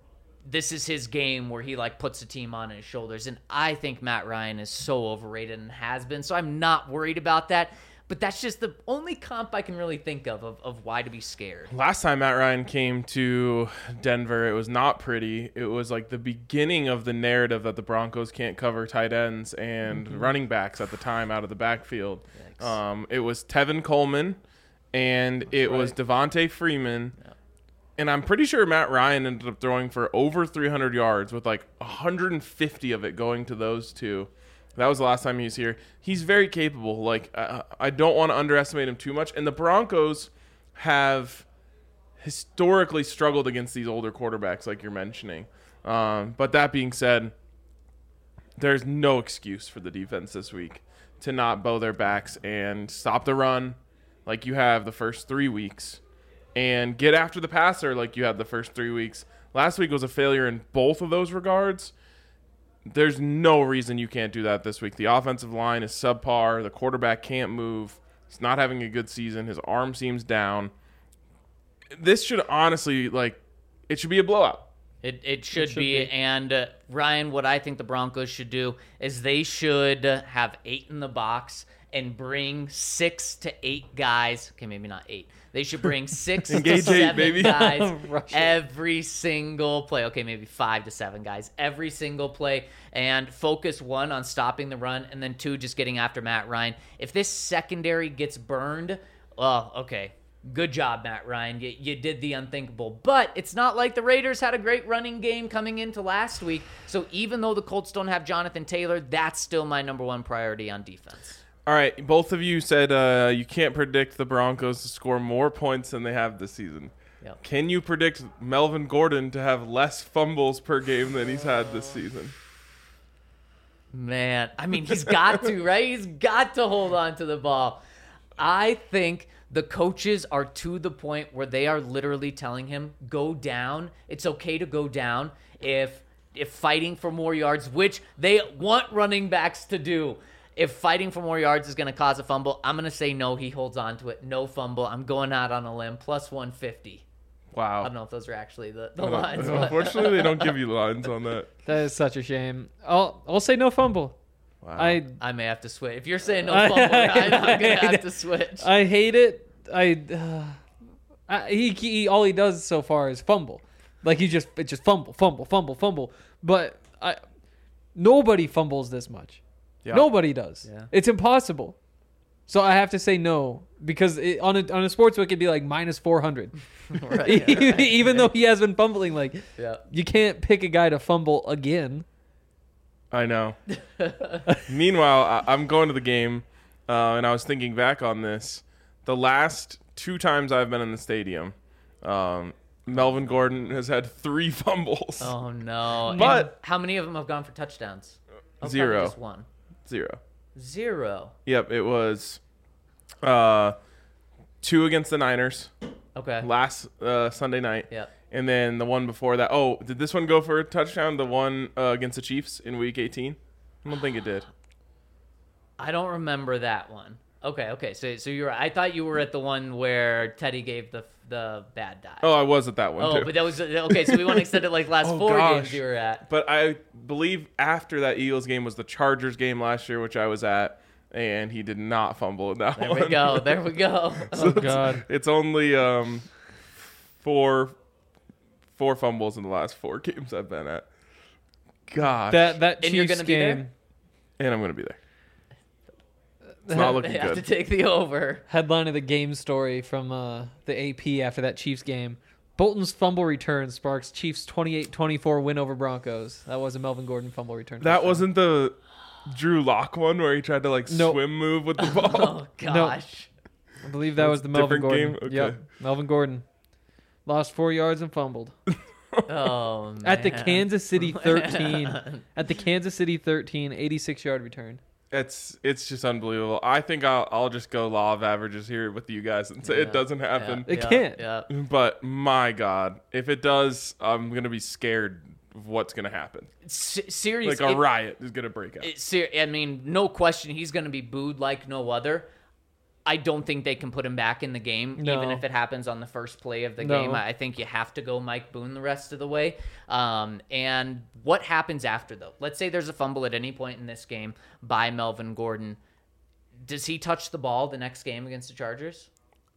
this is his game where he like puts the team on his shoulders. And I think Matt Ryan is so overrated and has been. So I'm not worried about that. But that's just the only comp I can really think of, of of why to be scared. Last time Matt Ryan came to Denver, it was not pretty. It was like the beginning of the narrative that the Broncos can't cover tight ends and mm-hmm. running backs at the time out of the backfield. Um, it was Tevin Coleman and that's it right. was Devontae Freeman. Yeah. And I'm pretty sure Matt Ryan ended up throwing for over three hundred yards with like one hundred fifty of it going to those two. That was the last time he was here. He's very capable. Like, uh, I don't want to underestimate him too much. And the Broncos have historically struggled against these older quarterbacks, like you're mentioning. Um, but that being said, there's no excuse for the defense this week to not bow their backs and stop the run like you have the first three weeks and get after the passer like you had the first three weeks. Last week was a failure in both of those regards. There's no reason you can't do that this week. The offensive line is subpar. The quarterback can't move. He's not having a good season. His arm seems down. This should honestly, like, it should be a blowout. It it should, it should be. be. And, uh, Ryan, what I think the Broncos should do is they should have eight in the box and bring six to eight guys. Okay, maybe not eight. They should bring six to seven eight, guys every single play. Okay, maybe five to seven guys every single play, and focus one on stopping the run, and then two just getting after Matt Ryan. If this secondary gets burned, well, okay, good job, Matt Ryan. You, you did the unthinkable. But it's not like the Raiders had a great running game coming into last week. So even though the Colts don't have Jonathan Taylor, that's still my number one priority on defense. All right, both of you said uh, you can't predict the Broncos to score more points than they have this season. Yep. Can you predict Melvin Gordon to have less fumbles per game than he's had this season? Man, I mean, he's got to, right? He's got to hold on to the ball. I think the coaches are to the point where they are literally telling him, go down. It's okay to go down if if fighting for more yards, which they want running backs to do. If fighting for more yards is going to cause a fumble, I'm going to say no, he holds on to it. No fumble. I'm going out on a limb. Plus one fifty. Wow. I don't know if those are actually the, the lines. Unfortunately, they don't give you lines on that. That is such a shame. I'll I'll say no fumble. Wow. I I may have to switch. If you're saying no fumble, I'm going to have to switch. I hate it. I, uh, I he, he all he does so far is fumble. Like he just it just fumble, fumble, fumble, fumble. But I nobody fumbles this much. Yeah. Nobody does. Yeah. It's impossible. So I have to say no because it, on a on a sportsbook it'd be like minus four hundred. Right, yeah, right, Even yeah. though he has been fumbling, like yeah. you can't pick a guy to fumble again. I know. Meanwhile, I, I'm going to the game, uh, and I was thinking back on this. The last two times I've been in the stadium, um, Melvin Gordon has had three fumbles. Oh no! But and how many of them have gone for touchdowns? Oh, zero. Just one. Zero. Zero. Yep, it was uh, two against the Niners. Okay. Last uh, Sunday night. Yep. And then the one before that. Oh, did this one go for a touchdown? The one uh, against the Chiefs in Week eighteen? I don't think it did. I don't remember that one. Okay, okay. So, so you were. I thought you were at the one where Teddy gave the the bad dive. Oh, I was at that one oh, too. but that was okay. So we want to extend it like last oh, four gosh. games you were at. But I believe after that Eagles game was the Chargers game last year, which I was at, and he did not fumble in that there one. There we go. There we go. So oh God! It's, it's only um four four fumbles in the last four games I've been at. Gosh. That that And Chiefs you're gonna be game. there? And I'm gonna be there. It's not looking They have good. to take the over. Headline of the game story from uh, the A P after that Chiefs game. Bolton's fumble return sparks Chiefs twenty-eight twenty-four win over Broncos. That was a Melvin Gordon fumble return. That touchdown. wasn't the Drew Lock one where he tried to like Nope. swim move with the ball. Oh gosh. I believe that was the Melvin Different Gordon. game? Okay. Yep, Melvin Gordon. Lost four yards and fumbled. Oh man. At the Kansas City thirteen. Man. At the Kansas City thirteen, eighty-six yard return. It's it's just unbelievable. I think I'll I'll just go law of averages here with you guys and say Yeah, it doesn't happen. It yeah, can't. Yeah. But my God, if it does, I'm gonna be scared of what's gonna happen. S- serious. Like a it- riot is gonna break out. it- ser- I mean, no question, he's going to be booed like no other. I don't think they can put him back in the game, No. even if it happens on the first play of the No. game. I I think you have to go Mike Boone the rest of the way. Um, and what happens after, though? Let's say there's a fumble at any point in this game by Melvin Gordon. Does he touch the ball the next game against the Chargers?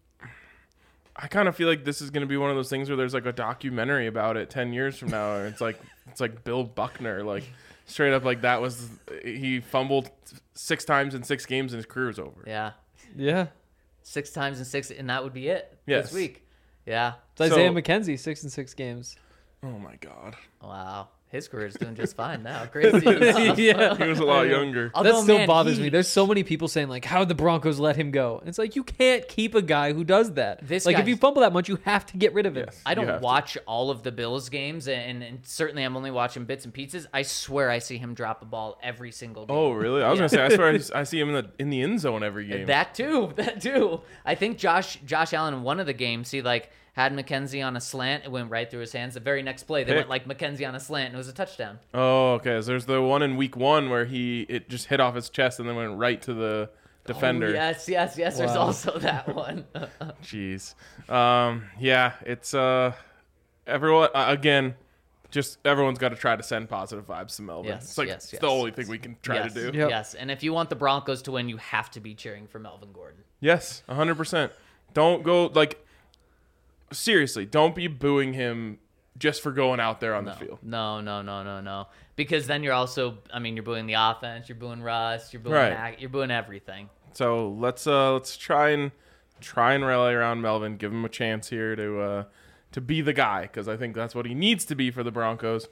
I kind of feel like this is going to be one of those things where there's like a documentary about it ten years from now. And it's like it's like Bill Buckner, like straight up, like that was he fumbled six times in six games and his career was over. Yeah. Yeah. Six times in six, and that would be it Yes. this week. Yeah. It's Isaiah So- McKenzie, six and six games. Oh my god, Wow. His career's doing just fine now. Crazy enough. Yeah. he was a lot younger. That Although, still man, bothers he- me. There's so many people saying like, "How'd the Broncos let him go?" And it's like you can't keep a guy who does that. This like if guy's- you fumble that much, you have to get rid of him. Yes. I You don't have to. watch all of the Bills games, and, and certainly I'm only watching bits and pieces. I swear I see him drop a ball every single game. Oh really? I was Yeah. gonna say I swear I, just- I see him in the in the end zone every game. That too, that too. I think Josh Josh Allen in one of the games, he like had McKenzie on a slant. It went right through his hands. The very next play, they Pick. went like McKenzie on a slant, and it was a touchdown. Oh, okay. So there's the one in week one where he it just hit off his chest and then went right to the defender. Oh, yes, yes, yes. There's Wow. also that one. Jeez. Um, yeah, it's uh, everyone uh, again. Just everyone's got to try to send positive vibes to Melvin. Yes, it's like yes, it's the yes. only thing we can try yes, to do. Yep. Yes, and if you want the Broncos to win, you have to be cheering for Melvin Gordon. Yes, one hundred percent. Don't go like seriously. Don't be booing him just for going out there on No, the field. no, no, no, no, no. Because then you're also, I mean, you're booing the offense, you're booing Russ, you're booing, Right. Mac, you're booing everything. So let's uh let's try and try and rally around Melvin. Give him a chance here to uh to be the guy because I think that's what he needs to be for the Broncos.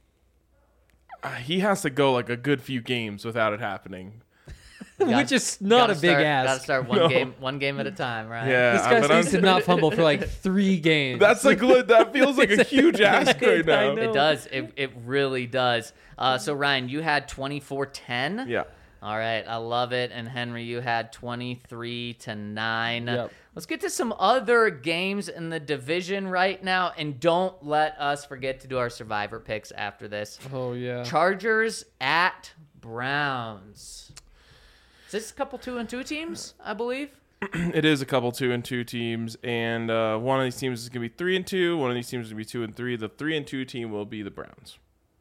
Uh, he has to go like a good few games without it happening. Which is not a Gotta big start, ask. Gotta start one No. game, one game at a time, right? Yeah, This guy but I'm- needs to not fumble for like three games. That's like that feels like a huge ask right I now. know. It does. It, it really does. Uh, so, Ryan, you had twenty-four ten. Yeah. All right. I love it. And, Henry, you had twenty-three to nine. Yep. Let's get to some other games in the division right now. And don't let us forget to do our survivor picks after this. Oh yeah. Chargers at Browns. Is this a couple two and two teams, I believe? It is a couple two and two teams, and uh, one of these teams is gonna be three and two. One of these teams is gonna be two and three. The three and two team will be the Browns.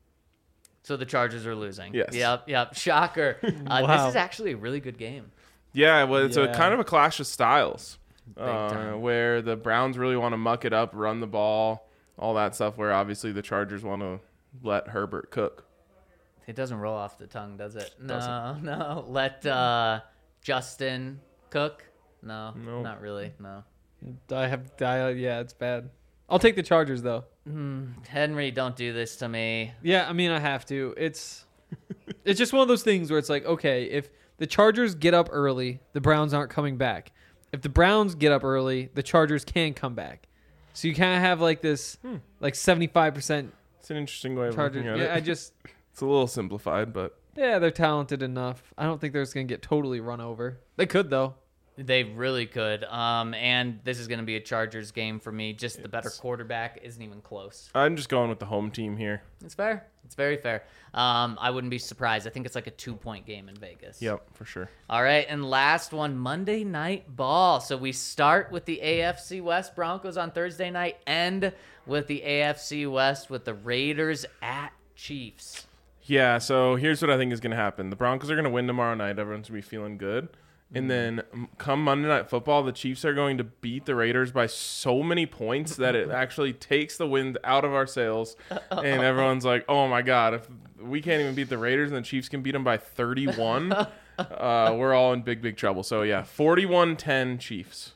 So the Chargers are losing. Yes. Yep, yep. Shocker. Uh, Wow. This is actually a really good game. Yeah, well, it's a Yeah. kind of a clash of styles, uh, time. where the Browns really want to muck it up, run the ball, all that stuff. Where obviously the Chargers want to let Herbert cook. It doesn't roll off the tongue, does it? No, Doesn't. no. Let uh, Justin cook. No, No. not really. No. I have. I, yeah, it's bad. I'll take the Chargers though. Henry, don't do this to me. Yeah, I mean I have to. It's it's just one of those things where it's like, okay, if the Chargers get up early, the Browns aren't coming back. If the Browns get up early, the Chargers can come back. So you kind of have like this, like seventy-five percent It's an interesting way of Chargers. looking at Yeah, I it. just It's a little simplified, but yeah, they're talented enough. I don't think they're just gonna get totally run over. They could though. They really could. Um, and this is going to be a Chargers game for me. Just the better quarterback isn't even close. I'm just going with the home team here. It's fair. It's very fair. Um, I wouldn't be surprised. I think it's like a two-point game in Vegas. Yep, for sure. All right, and last one, Monday Night Ball. So we start with the A F C West Broncos on Thursday night, end with the A F C West with the Raiders at Chiefs. Yeah, so here's what I think is going to happen. The Broncos are going to win tomorrow night. Everyone's going to be feeling good. And then um, come Monday Night Football, the Chiefs are going to beat the Raiders by so many points that it actually takes the wind out of our sails. And everyone's like, oh, my God, if we can't even beat the Raiders and the Chiefs can beat them by thirty-one, uh, we're all in big, big trouble. So, yeah, forty-one ten Chiefs.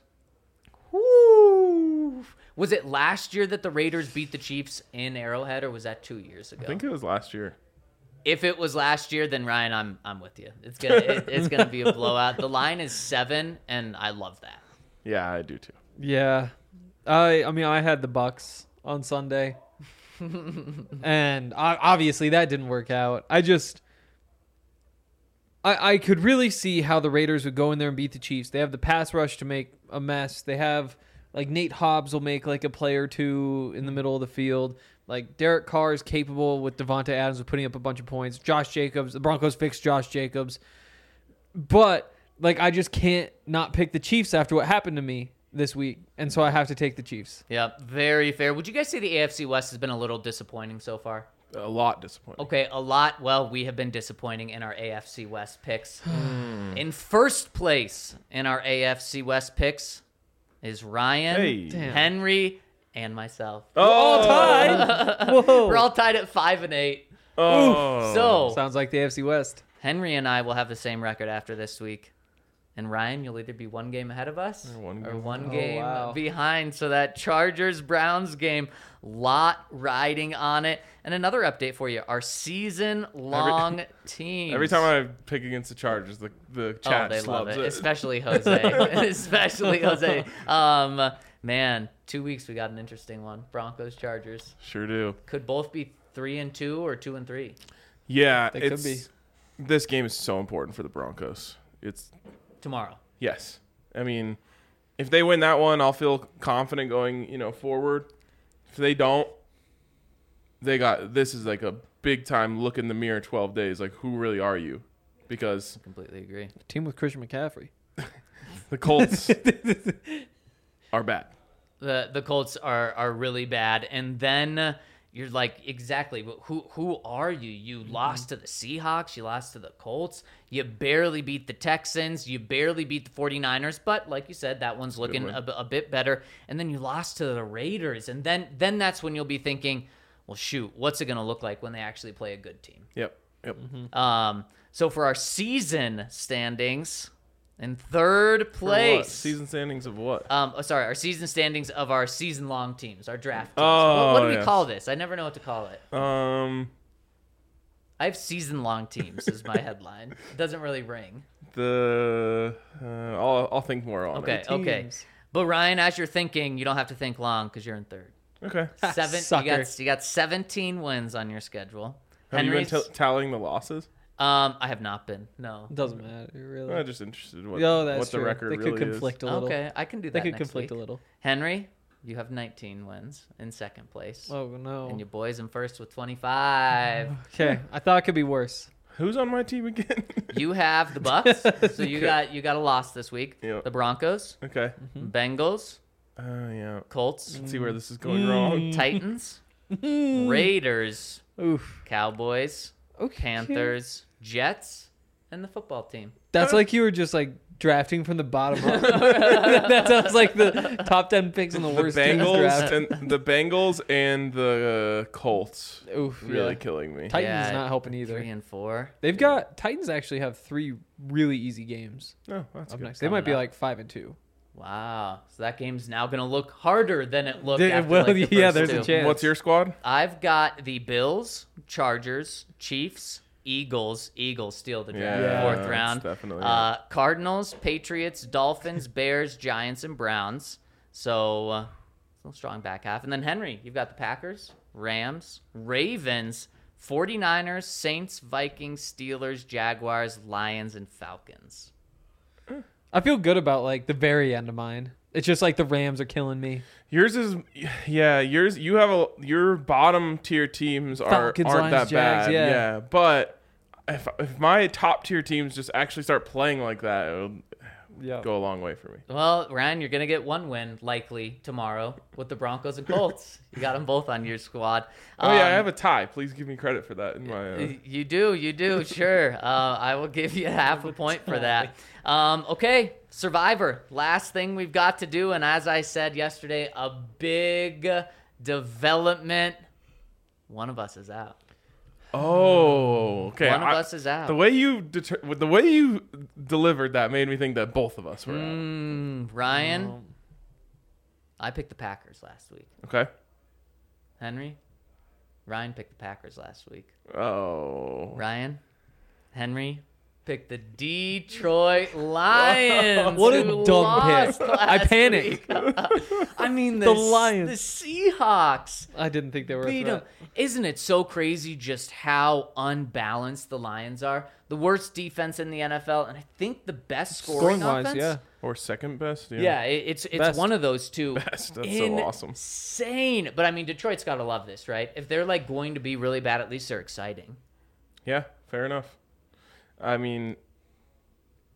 Woo! Was it last year that the Raiders beat the Chiefs in Arrowhead, or was that two years ago? I think it was last year. If it was last year, then Ryan, I'm I'm with you. It's gonna it, it's gonna be a blowout. The line is seven, and I love that. Yeah, I do too. Yeah, I I mean I had the Bucks on Sunday, and I, obviously that didn't work out. I just I I could really see how the Raiders would go in there and beat the Chiefs. They have the pass rush to make a mess. They have like Nate Hobbs will make like a play or two in the middle of the field. Like Derek Carr is capable with Devonta Adams of putting up a bunch of points. Josh Jacobs, the Broncos fixed Josh Jacobs, but like I just can't not pick the Chiefs after what happened to me this week, and so I have to take the Chiefs. Yep, very fair. Would you guys say the A F C West has been a little disappointing so far? A lot disappointing. Okay, a lot. Well, we have been disappointing in our A F C West picks. In first place in our A F C West picks is Ryan, Hey. Damn. Henry, and myself. Oh, Whoa! We're all tied at five and eight. oh. So Sounds like the A F C West. Henry and I will have the same record after this week. And Ryan, you'll either be one game ahead of us Or one or game one Oh, game wow. behind. So that Chargers-Browns game, lot riding on it. And another update for you, our season-long teams. Every time I pick against the Chargers, the the chat Oh, they love slubs it. it. Especially Jose. Especially Jose. Um, man, two weeks we got an interesting one. Broncos, Chargers. Sure do. Could both be three and two or two and three. Yeah, They could it's be. this game is so important for the Broncos. It's Tomorrow. yes. I mean, if they win that one, I'll feel confident going, you know, forward. If they don't, they got this is like a big time look in the mirror twelve days. Like, who really are you? Because Completely agree. Team with Christian McCaffrey. the Colts are bad. The the Colts are are really bad, and then uh, you're like, exactly, but who who are you? You Mm-hmm. lost to the Seahawks, you lost to the Colts, you barely beat the Texans, you barely beat the 49ers, but like you said, that one's looking win. a, b- a bit better, and then you lost to the Raiders, and then then that's when you'll be thinking, well, shoot, what's it going to look like when they actually play a good team? Yep. Yep. Um, so for our season standings, in third For what? place, Season standings of what? Um, oh, sorry, our season standings of our season-long teams, our draft teams. Oh, what, what do we yes. call this? I never know what to call it. Um, I have season-long teams is my headline. It doesn't really ring. the uh, I'll I'll think more on Okay, it. okay. Teams. But Ryan, as you're thinking, you don't have to think long because you're in third. Okay. Seven. You Sucker. got you got seventeen wins on your schedule. Have you been Henry's- t- tallying the losses? um, I have not been. No. Doesn't matter really. I'm just interested in what, oh, that's what the true. record They really could conflict a little. Okay, I can do They that could next conflict week. a little. Henry, you have nineteen wins in second place, Oh no. and your boys in first with twenty-five. Okay, I thought it could be worse. is. Who's on my team again? You have the Bucks, so you got you got a loss this week. Yeah. The Broncos, okay. Bengals, Uh, yeah. Colts, Let's see where this is going wrong. Titans, Raiders, Oof. Cowboys, Okay. Panthers, Jets, and the football team. That's like you were just like drafting from the bottom up. That sounds like the top ten picks in the The worst teams Bengals draft. and the Bengals and the uh, Colts Oof, really yeah. killing me. Titans Yeah, not helping either. Three and four. They've got Titans actually have three really easy games Oh, that's up good. next. They might be Coming up. like five and two. Wow. So that game's now going to look harder than it looked They- after well, like, the yeah, first there's a two. chance. What's your squad? I've got the Bills, Chargers, Chiefs, Eagles. Eagles steal the draft, Yeah, fourth that's round. definitely uh, Cardinals, Patriots, Dolphins, Bears, Giants, and Browns. So, uh, still strong back half. And then Henry, you've got the Packers, Rams, Ravens, 49ers, Saints, Vikings, Steelers, Jaguars, Lions, and Falcons. I feel good about like the very end of mine. It's just like the Rams are killing me. Yours is, yeah. Yours, you have a your bottom tier teams are Falcons, aren't Lions, that Jags, bad, yeah. But if if my top tier teams just actually start playing like that, it'll Yeah. go a long way for me. Well, Ryan, you're going to get one win likely tomorrow with the Broncos and Colts. You got them both on your squad. Oh yeah, I Um, have a tie. Please give me credit for that in my. Uh, You do, you do, sure. Uh, I will give you half a point for that. Um, okay, Survivor. Last thing we've got to do, and as I said yesterday, a big development. One of us is out. oh, okay. One of I- us is out. The way you deter- the way you delivered that made me think that both of us were out. Mm, Ryan, I picked the Packers last week. Okay. Henry, Ryan picked the Packers last week. Oh. Ryan, Henry picked the Detroit Lions. What a who dumb lost pick. I last panicked. week. I mean, the, The S- Lions. the Seahawks I didn't think they were a beat them. threat. Isn't it so crazy just how unbalanced the Lions are? The worst defense in the N F L, and I think the best scoring Scoring-wise, offense. yeah. Or second best. Yeah. Yeah, it, it's it's Best. one of those two. Best. That's so awesome. Insane. But I mean, Detroit's got to love this, right? If they're like going to be really bad, at least they're exciting. Yeah. Fair enough. I mean,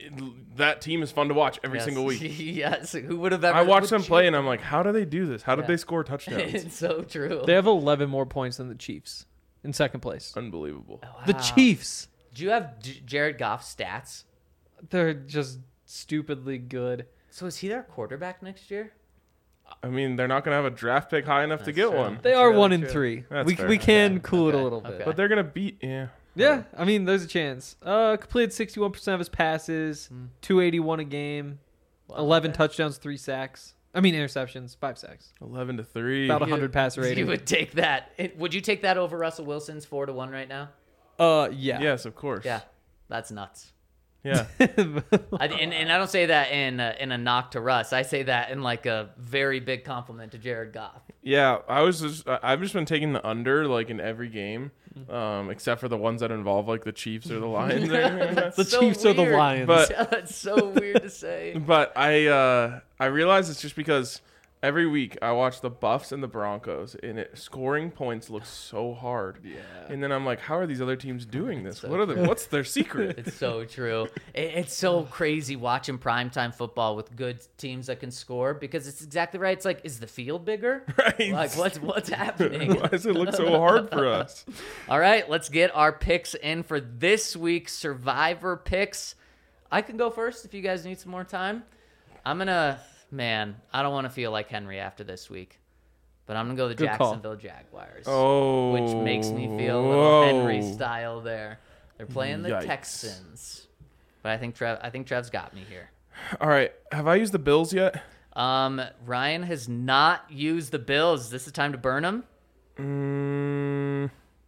it- that team is fun to watch every Yes. single week. Yes. Who would have ever? I watch would them you- play and I'm like, how do they do this? How did Yeah. they score touchdowns? It's so true. They have eleven more points than the Chiefs in second place. Unbelievable. The Wow. Chiefs, Do you have J- Jared Goff's stats? they're just stupidly good. So is he their quarterback next year? I mean, they're not going to have a draft pick high enough to That's get true. one. They That's are really one and true. three. That's we fair. we can Okay. cool it a Okay. little bit. Okay. But they're going to beat, yeah. Yeah, I mean, there's a chance. Uh, completed sixty-one percent of his passes, two eighty-one a game, Wow, eleven okay. touchdowns, three sacks. I mean, interceptions, five sacks. eleven to three. About a You- hundred passer rating. You would take that. It, would you take that over Russell Wilson's four to one right now? Uh, yeah. Yes, of course. Yeah, that's nuts. Yeah. I, and, and I don't say that in a, in a knock to Russ. I say that in like a very big compliment to Jared Goff. Yeah, I was just I- I've just been taking the under like in every game, um, except for the ones that involve like the Chiefs or the Lions. or anything like that. the so Chiefs or the weird. Lions. But- That's so weird to say. But I uh, I realize it's just because every week I watch the Buffs and the Broncos, and it scoring points looks so hard. Yeah. And then I'm like, how are these other teams doing this? so What are the, What's their secret? It's so true. It, it's so crazy watching primetime football with good teams that can score because it's exactly right. It's like, is the field bigger? Right. Like, what's what's happening? Why does it look so hard for us? All right, let's get our picks in for this week's Survivor picks. I can go first if you guys need some more time. I'm gonna, man, I don't want to feel like Henry after this week, but I'm gonna go the Good call. Jacksonville Jaguars. Oh, Which makes me feel a little Henry style there. They're playing the Yikes. Texans, but I think Trev, I think Trev's got me here. All right, have I used the Bills yet? Um, Ryan has not used the Bills. Is this the time to burn them? Mm,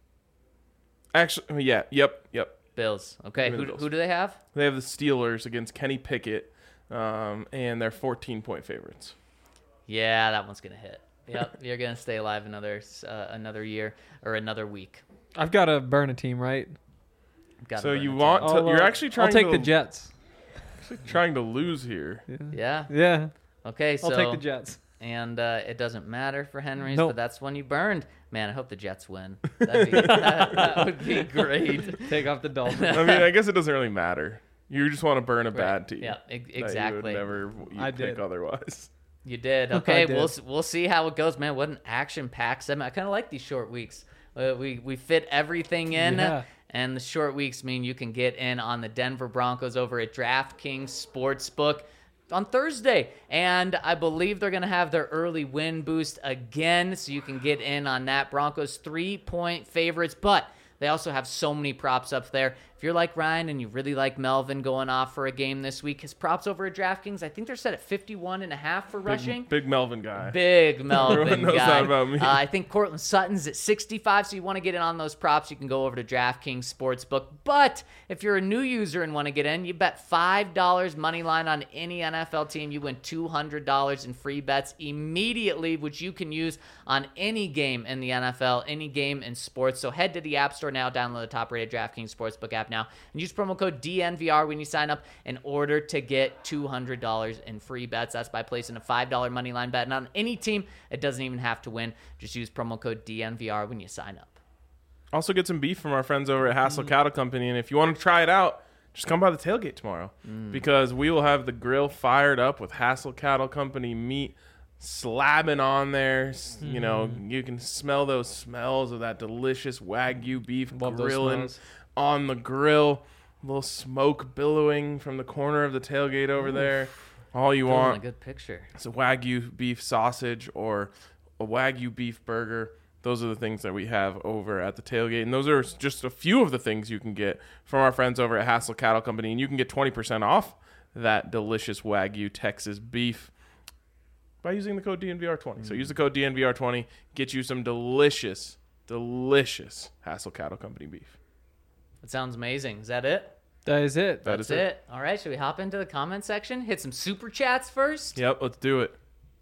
actually, yeah, yep, yep. Bills. Okay, Give me who, the Bills. who do they have? They have the Steelers against Kenny Pickett, um, and they're fourteen point favorites. Yeah, that one's gonna hit. Yep, you're gonna stay alive another uh, another year or another week. I've got to burn a team, right? Gotta So burn you the want team. to? You're uh, actually trying. I'll take to, the Jets. Trying to lose here. Yeah. Yeah, Okay. So I'll take the Jets. and uh, it doesn't matter for Henry's, Nope. but that's one you burned. Man, I hope the Jets win. That'd be, that, that would be great. Take off the Dolphins. I mean, I guess it doesn't really matter. You just want to burn a bad Right. team. Yeah, e- that You exactly. would never you I pick did. otherwise. You did. Okay, did. we'll s- we'll see how it goes, man. What an action-packed segment. I kind of like these short weeks. Uh, we we fit everything in, Yeah. and the short weeks mean you can get in on the Denver Broncos over at DraftKings Sportsbook on Thursday, and I believe they're going to have their early win boost again, so you can get in on that. Broncos three-point favorites, but they also have so many props up there. If you're like Ryan and you really like Melvin going off for a game this week, his props over at DraftKings, I think they're set at fifty-one and a half for rushing. Big, big Melvin guy. Big Melvin Everyone knows guy. that about me. Uh, I think Cortland Sutton's at sixty-five, so you want to get in on those props, you can go over to DraftKings Sportsbook. But if you're a new user and want to get in, you bet five dollars money line on any N F L team, you win two hundred dollars in free bets immediately, which you can use on any game in the N F L, any game in sports. So head to the App Store now, download the top-rated DraftKings Sportsbook app now, and use promo code D N V R when you sign up in order to get two hundred dollars in free bets. That's by placing a five dollars money line bet. And on any team, it doesn't even have to win. Just use promo code D N V R when you sign up. Also get some beef from our friends over at Hassel Cattle Company, and if you want to try it out, just come by the tailgate tomorrow because we will have the grill fired up with Hassel Cattle Company meat slabbing on there. S You know, you can smell those smells of that delicious Wagyu beef Love those grilling smells. on the grill. A little smoke billowing from the corner of the tailgate over there. All you Building a want good picture. is a Wagyu beef sausage or a Wagyu beef burger. Those are the things that we have over at the tailgate. And those are just a few of the things you can get from our friends over at Hassel Cattle Company. And you can get twenty percent off that delicious Wagyu Texas beef by using the code D N V R twenty. Mm. So use the code D N V R twenty. Get you some delicious, delicious Hassel Cattle Company beef. That sounds amazing. Is that it? That is it. That That's is it. All right, should we hop into the comment section? Hit some super chats first. Yep, let's do it.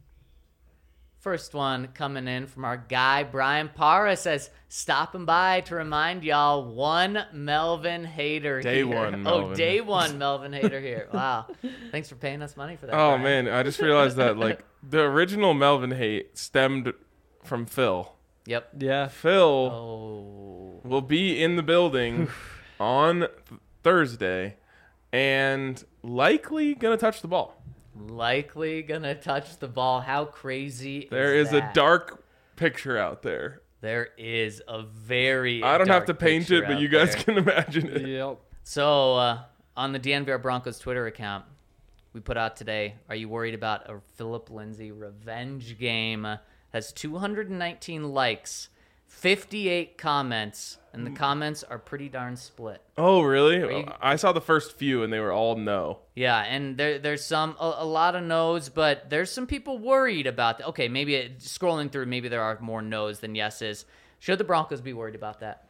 First one coming in from our guy, Brian Parra, says, stopping by to remind y'all, one Melvin hater Day here. one Oh, Melvin. day one Melvin hater here. Wow. Thanks for paying us money for that. Oh, Brian. man. I just realized that, like, the original Melvin hate stemmed from Phil. Yep. Yeah. Phil Oh. will be in the building on th- Thursday and likely gonna touch the ball. Likely gonna touch the ball. How crazy There is is that? a dark picture out there. There is a very I don't have dark to paint picture it, but out you guys there. can imagine it. Yep. So, uh, on the D N V R Broncos Twitter account, we put out today, are you worried about a Philip Lindsay revenge game? Uh, has two hundred nineteen likes, fifty-eight comments, and the comments are pretty darn split. Oh, really? you- I saw the first few, and they were all no. Yeah, and there, there's some, a, a lot of no's, but there's some people worried about that. Okay, maybe it, scrolling through, maybe there are more no's than yeses. Should the Broncos be worried about that?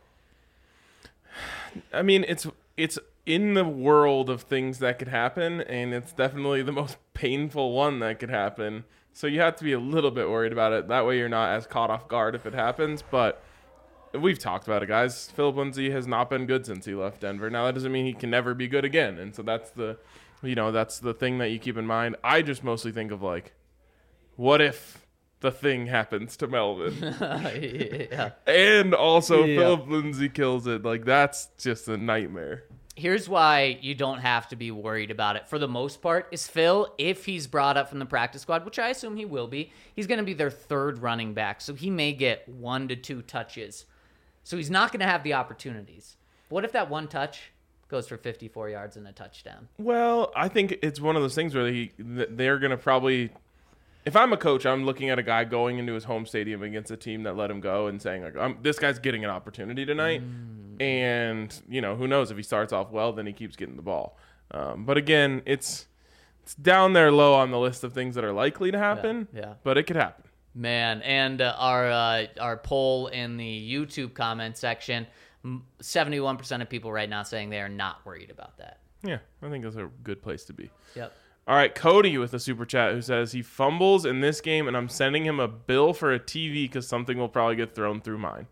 I mean, it's it's in the world of things that could happen, and it's definitely the most painful one that could happen. So you have to be a little bit worried about it. That way you're not as caught off guard if it happens. But we've talked about it, guys. Philip Lindsay has not been good since he left Denver. Now, that doesn't mean he can never be good again. And so that's the, you know, that's the thing that you keep in mind. I just mostly think of, like, what if the thing happens to Melvin? Yeah. And also Yeah. Philip Lindsay kills it. Like, that's just a nightmare. Here's why you don't have to be worried about it. For the most part, is Phil, if he's brought up from the practice squad, which I assume he will be, he's going to be their third running back. So he may get one to two touches. So he's not going to have the opportunities. What if that one touch goes for fifty-four yards and a touchdown? Well, I think it's one of those things where he, th- they're going to probably... If I'm a coach, I'm looking at a guy going into his home stadium against a team that let him go and saying, like, I'm, this guy's getting an opportunity tonight. Mm. And, you know, who knows? If he starts off well, then he keeps getting the ball. Um, but again, it's it's down there low on the list of things that are likely to happen. Yeah, yeah. But it could happen. Man, and uh, our uh, our poll in the YouTube comment section, m- seventy-one percent of people right now saying they are not worried about that. Yeah, I think that's a good place to be. Yep. All right, Cody with a super chat who says he fumbles in this game, and I'm sending him a bill for a T V because something will probably get thrown through mine.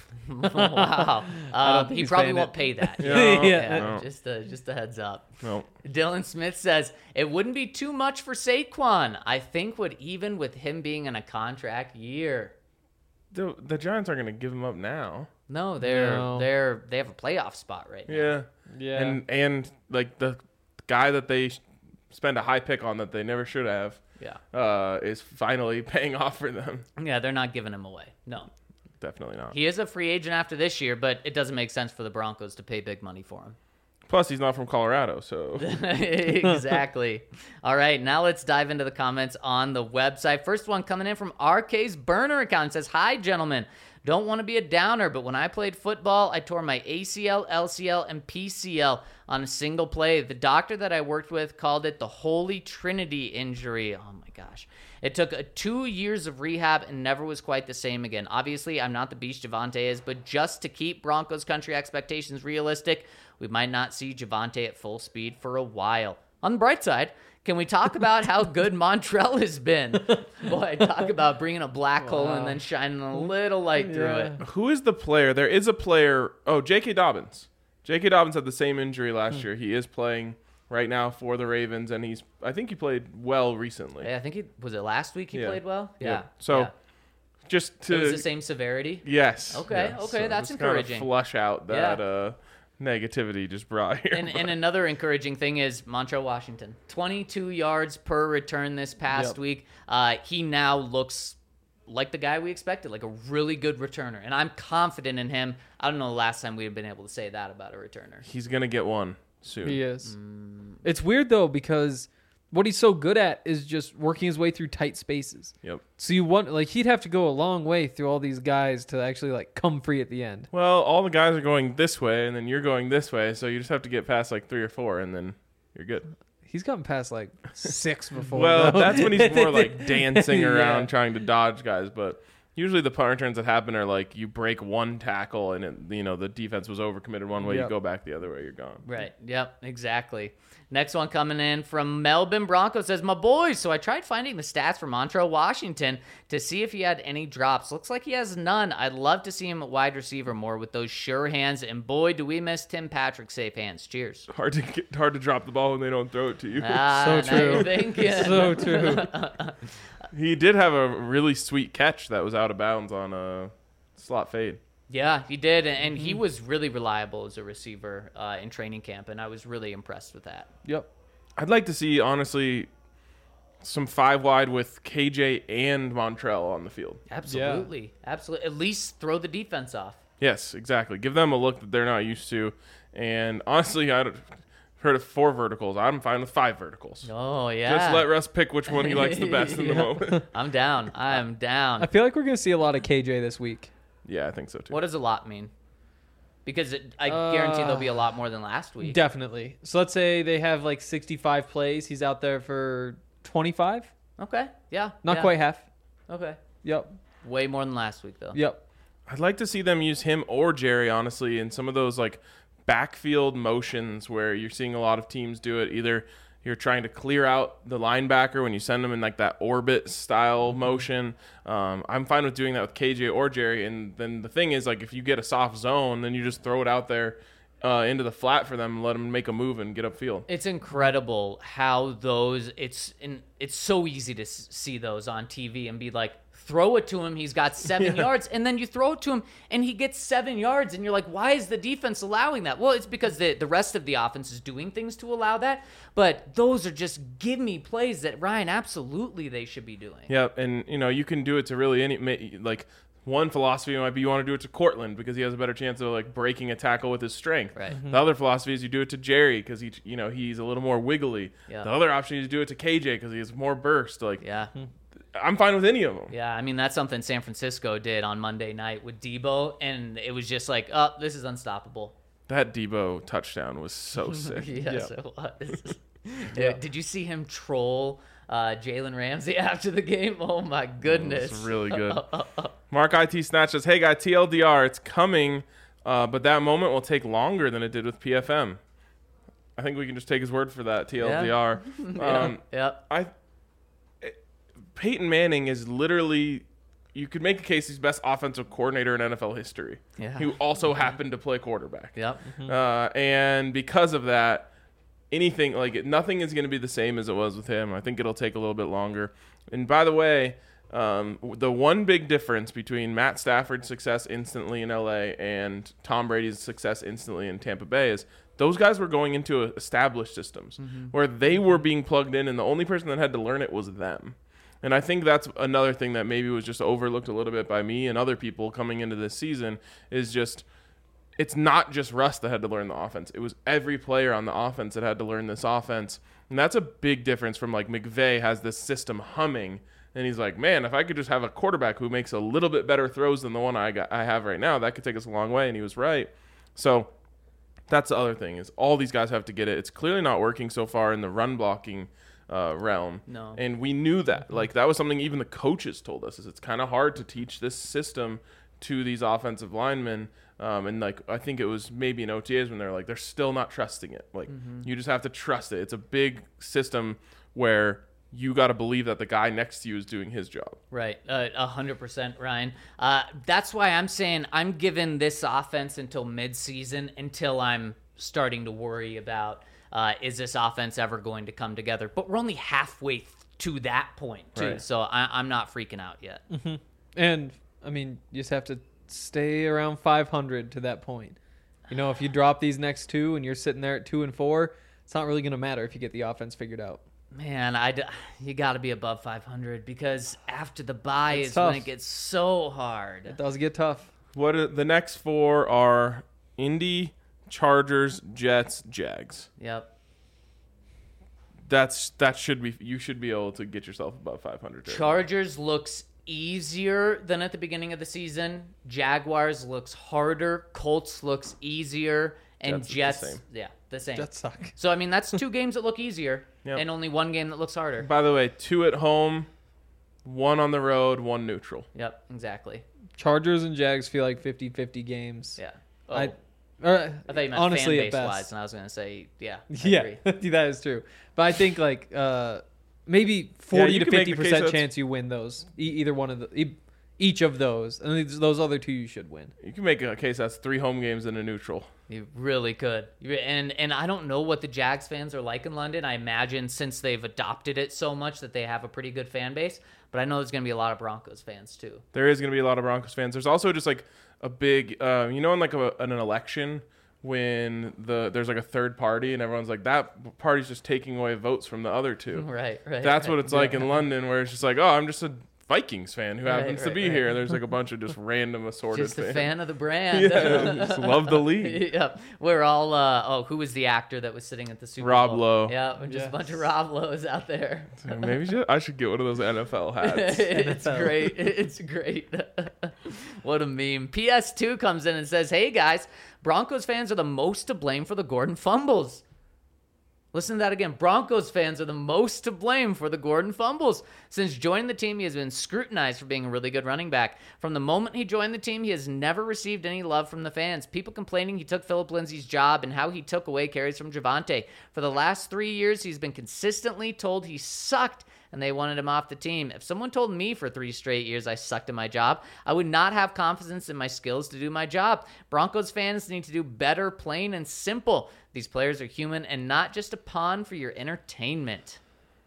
Wow. Um, think he he's probably paying won't it. pay that. Yeah. Yeah, No. Just a, just a heads up. No. Dylan Smith says, it wouldn't be too much for Saquon. I think would even with him being in a contract year. The, the Giants aren't going to give him up now. No, they're No. they're they have a playoff spot right now. Yeah. Yeah. And, and like, the guy that they sh- spend a high pick on that they never should have Yeah. uh, is finally paying off for them. Yeah, they're not giving him away. No. Definitely not. He is a free agent after this year, but it doesn't make sense for the Broncos to pay big money for him. Plus, he's not from Colorado, so... Exactly. All right, now let's dive into the comments on the website. First one coming in from R K's burner account. It says, hi, gentlemen. Don't want to be a downer, but when I played football, I tore my A C L, L C L, and P C L on a single play. The doctor that I worked with called it the Holy Trinity injury. Oh, my gosh. It took uh, two years of rehab and never was quite the same again. Obviously, I'm not the beast Javonte is, but just to keep Broncos country expectations realistic, we might not see Javonte at full speed for a while. On the bright side, can we talk about how good Montrell has been? Boy, talk about bringing a black hole and then shining a little light through Yeah. it. Who is the player? There is a player... Oh, J K. Dobbins. J K. Dobbins had the same injury last year. He is playing right now for the Ravens, and he's... I think he played well recently. Yeah, I think he was it last week he Yeah. played well? Yeah. Yeah. So, yeah. just to... It was the same severity? Yes. Okay, yes. okay, that's just kind of encouraging. flush out that Yeah. uh, negativity just brought here. And, and another encouraging thing is Montrell Washington. twenty-two yards per return this past Yep. week. Uh, he now looks like the guy we expected, like a really good returner. And I'm confident in him. I don't know the last time we've been able to say that about a returner. He's going to get one soon. He is. Mm. It's weird though because what he's so good at is just working his way through tight spaces. Yep. So you want like he'd have to go a long way through all these guys to actually like come free at the end. Well, all the guys are going this way, and then you're going this way, so you just have to get past like three or four, and then you're good. He's gotten past like six before. Well, though. that's when he's more like dancing Yeah. around trying to dodge guys. But usually the punt returns that happen are like you break one tackle and it, you know the defense was overcommitted one way, you Yep. go back the other way, you're gone. Right. Yep. Exactly. Next one coming in from Melbourne Broncos says, my boys. So I tried finding the stats for Montrell Washington to see if he had any drops. Looks like he has none. I'd love to see him at wide receiver more with those sure hands. And boy, do we miss Tim Patrick's safe hands. Cheers. Hard to get, hard to drop the ball when they don't throw it to you. Ah, So now true. you're thinking. so true. He did have a really sweet catch that was out of bounds on a slot fade. Yeah, he did, and and he Mm-hmm. was really reliable as a receiver uh, in training camp, and I was really impressed with that. Yep. I'd like to see, honestly, some five wide with K J and Montrell on the field. Absolutely, absolutely. At least throw the defense off. Yes, exactly. Give them a look that they're not used to. And honestly, I've heard of four verticals. I'm fine with five verticals. Oh yeah. Just let Russ pick which one he likes the best in the Yeah. moment. I'm down. I'm down. I feel like we're gonna see a lot of K J this week. Yeah, I think so too. What does a lot mean? Because it, I guarantee there'll be a lot more than last week. Definitely. So let's say they have like sixty-five plays. He's out there for twenty-five. Okay. Yeah. Not yeah. quite half. Okay. Yep. Way more than last week though. Yep. I'd like to see them use him or Jerry, honestly, in some of those like backfield motions where you're seeing a lot of teams do it. Either you're trying to clear out the linebacker when you send them in like that orbit style motion. Um, I'm fine with doing that with K J or Jerry. And then the thing is, like, if you get a soft zone, then you just throw it out there uh, into the flat for them and let them make a move and get upfield. It's incredible how those it's in, it's so easy to s- see those on T V and be like, throw it to him, he's got seven Yeah. yards, and then you throw it to him and he gets seven yards and you're like, why is the defense allowing that? Well, it's because the, the rest of the offense is doing things to allow that, but those are just give me plays that Ryan absolutely they should be doing. Yeah, and you know you can do it to really any ma- like one philosophy might be you want to do it to Cortland because he has a better chance of like breaking a tackle with his strength. Right. The other philosophy is you do it to Jerry because he you know he's a little more wiggly. Yeah. The other option is you do it to K J because he has more burst. Like Yeah. I'm fine with any of them. Yeah, I mean that's something San Francisco did on Monday night with Debo, and it was just like, oh, this is unstoppable. That Debo touchdown was so sick. Yes, it was. Yeah, did you see him troll uh, Jalen Ramsey after the game? Oh my goodness, It's really good. Mark I T Snatch says, "Hey guy, T L D R, it's coming, uh, but that moment will take longer than it did with P F M." I think we can just take his word for that. T L D R. Um, Yep. I Peyton Manning is literally, you could make a case he's best offensive coordinator in N F L history. Yeah. Who also happened to play quarterback. Yep. Uh, and because of that, anything like nothing is going to be the same as it was with him. I think it'll take a little bit longer. And by the way, um, the one big difference between Matt Stafford's success instantly in L A and Tom Brady's success instantly in Tampa Bay is those guys were going into established systems where they were being plugged in, and the only person that had to learn it was them. And I think that's another thing that maybe was just overlooked a little bit by me and other people coming into this season is just it's not just Russ that had to learn the offense. It was every player on the offense that had to learn this offense. And that's a big difference from like McVay has this system humming. And he's like, man, if I could just have a quarterback who makes a little bit better throws than the one I got, I have right now, that could take us a long way. And he was right. So that's the other thing is all these guys have to get it. It's clearly not working so far in the run blocking uh, realm. No. And we knew that. Like that was something even the coaches told us is it's kind of hard to teach this system to these offensive linemen. Um, and like I think it was maybe in O T As when they're like they're still not trusting it. Like you just have to trust it. It's a big system where you got to believe that the guy next to you is doing his job. Right, a uh, hundred percent, Ryan. Uh, that's why I'm saying I'm giving this offense until mid-season until I'm starting to worry about uh, is this offense ever going to come together. But we're only halfway th- to that point too, Right. so I- I'm not freaking out yet. And I mean, you just have to stay around five hundred to that point. You know, if you drop these next two and you're sitting there at two and four, it's not really going to matter if you get the offense figured out. Man, I d- you got to be above five hundred because after the bye It's is tough. when it gets so hard. It does get tough. What are, the next four are Indy, Chargers, Jets, Jags. Yep. That's that should be you should be able to get yourself above five hundred. Chargers looks easier than at the beginning of the season. Jaguars looks harder. Colts looks easier. And Jets is the Jets, same. yeah, the same. Jets suck. So, I mean, that's two games that look easier Yep. and only one game that looks harder. By the way, two at home, one on the road, one neutral. Yep, exactly. Chargers and Jags feel like fifty-fifty games. Yeah. Oh, I, I, or, thought you meant honestly, fan at base best. wise, and I was going to say, yeah. I Yeah, agree. that is true. But I think like uh, maybe forty you to can make fifty the case percent that's- chance you win those. E- either one of the, e- each of those, and these- those other two you should win. You can make a case that's three home games and a neutral. You really could. You- And and I don't know what the Jags fans are like in London. I imagine since they've adopted it so much that they have a pretty good fan base. But I know there's going to be a lot of Broncos fans too. There is going to be a lot of Broncos fans. There's also just like a big, uh, you know, in like a, in an election when the there's like a third party and everyone's like, that party's just taking away votes from the other two. Right, right. That's right. what it's like in London, where it's just like, oh, I'm just a Vikings fan who Right, happens to right, be right. here. There's like a bunch of just random assorted Just a fans. fan of the brand. Yeah, just love the league. Yep. We're all, uh, oh, who was the actor that was sitting at the Super Rob Bowl? Lowe. Yeah, just Yes. a bunch of Rob Lowe's out there. So maybe should, I should get one of those N F L hats. It's great. It's great. What a meme. P S two comes in and says, hey guys, Broncos fans are the most to blame for the Gordon fumbles. Listen to that again. Broncos fans are the most to blame for the Gordon fumbles. Since joining the team, he has been scrutinized for being a really good running back. From the moment he joined the team, he has never received any love from the fans. People complaining he took Philip Lindsay's job and how he took away carries from Javonte. For the last three years, he's been consistently told he sucked and they wanted him off the team. If someone told me for three straight years I sucked at my job, I would not have confidence in my skills to do my job. Broncos fans need to do better, plain and simple. These players are human and not just a pawn for your entertainment.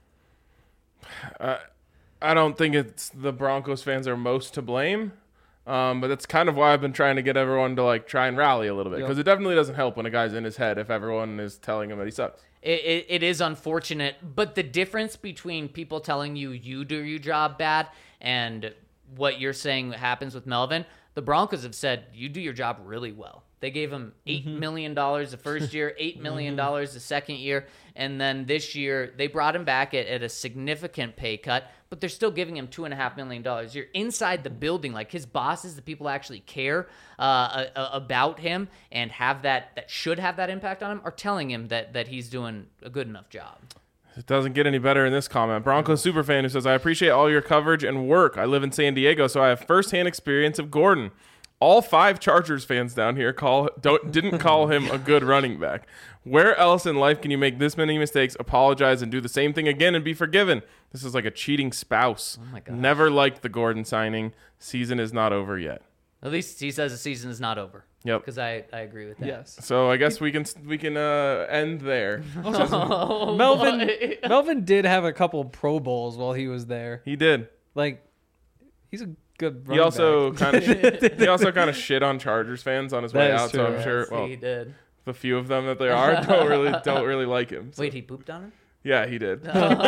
Uh, I don't think it's the Broncos fans are most to blame, um, but that's kind of why I've been trying to get everyone to like try and rally a little bit, because Yep. it definitely doesn't help when a guy's in his head if everyone is telling him that he sucks. It, it, it is unfortunate, but the difference between people telling you you do your job bad and what you're saying happens with Melvin, the Broncos have said you do your job really well. They gave him eight million dollars the first year, eight million dollars the second year, and then this year they brought him back at, at a significant pay cut, but they're still giving him two and a half million dollars. You're inside the building, like his bosses, the people who actually care uh, uh, about him and have that that should have that impact on him, are telling him that that he's doing a good enough job. It doesn't get any better in this comment. Broncos superfan who says, I appreciate all your coverage and work. I live in San Diego, so I have firsthand experience of Gordon. All five Chargers fans down here call don't didn't call him a good running back. Where else in life can you make this many mistakes, apologize, and do the same thing again and be forgiven? This is like a cheating spouse. Oh my gosh. Never liked the Gordon signing. Season is not over yet. At least he says the season is not over. Yep. Because I, I agree with that. Yes. So I guess we can we can uh, end there. Oh, Melvin boy. Melvin did have a couple Pro Bowls while he was there. He did. Like, he's a good running He also back. kind of he also kind of shit on Chargers fans on his way That is out. So true. I'm Yes, sure. Well, he did. the few of them that there are don't really don't really like him. So- Wait, he pooped on him? yeah, he did.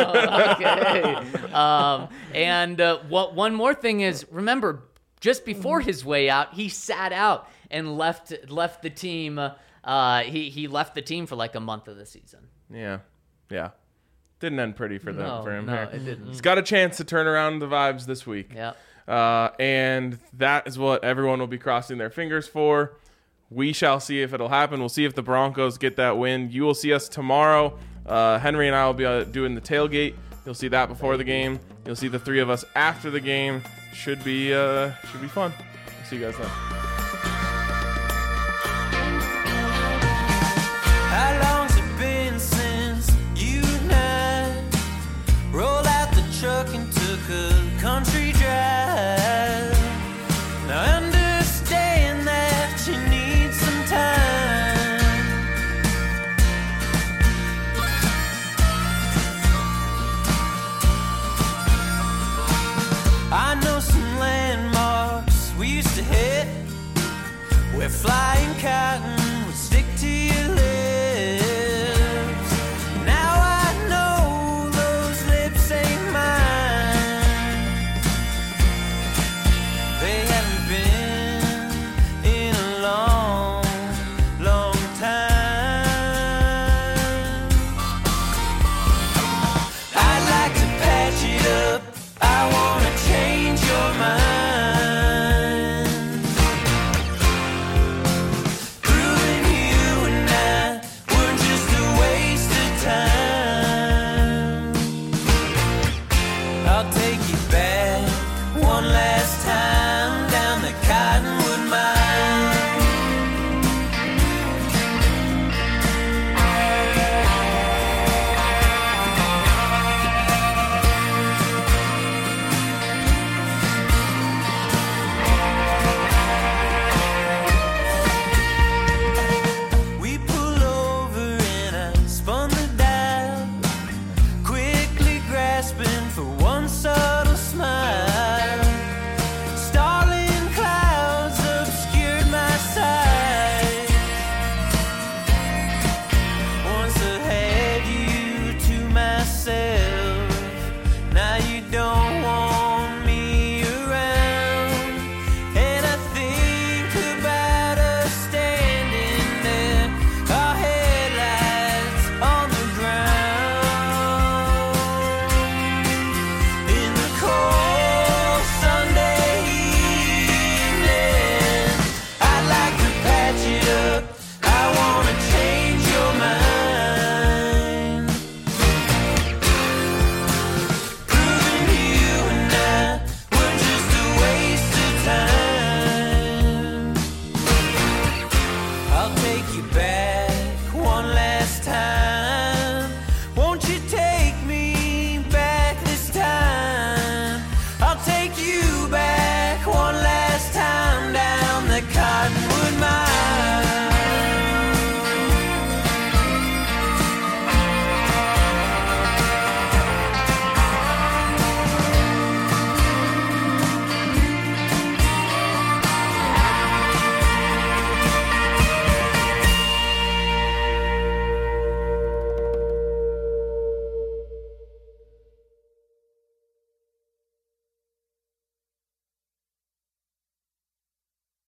Okay. um, and uh, what one more thing is, remember, just before his way out, he sat out and left left the team. Uh, he he left the team for like a month of the season. Yeah, yeah. Didn't end pretty for them No, for him no, here. it didn't. He's got a chance to turn around the vibes this week. Yep. Uh, and that is what everyone will be crossing their fingers for. We shall see if it'll happen. We'll see if the Broncos get that win. You will see us tomorrow. Uh, Henry and I will be uh, doing the tailgate. You'll see that before the game. You'll see the three of us after the game. Should be uh, should be fun. We'll see you guys then. How long's it been since you and I rolled out the truck and took a country drive? Now I understand that you need some time. I know some landmarks we used to hit where flying cotton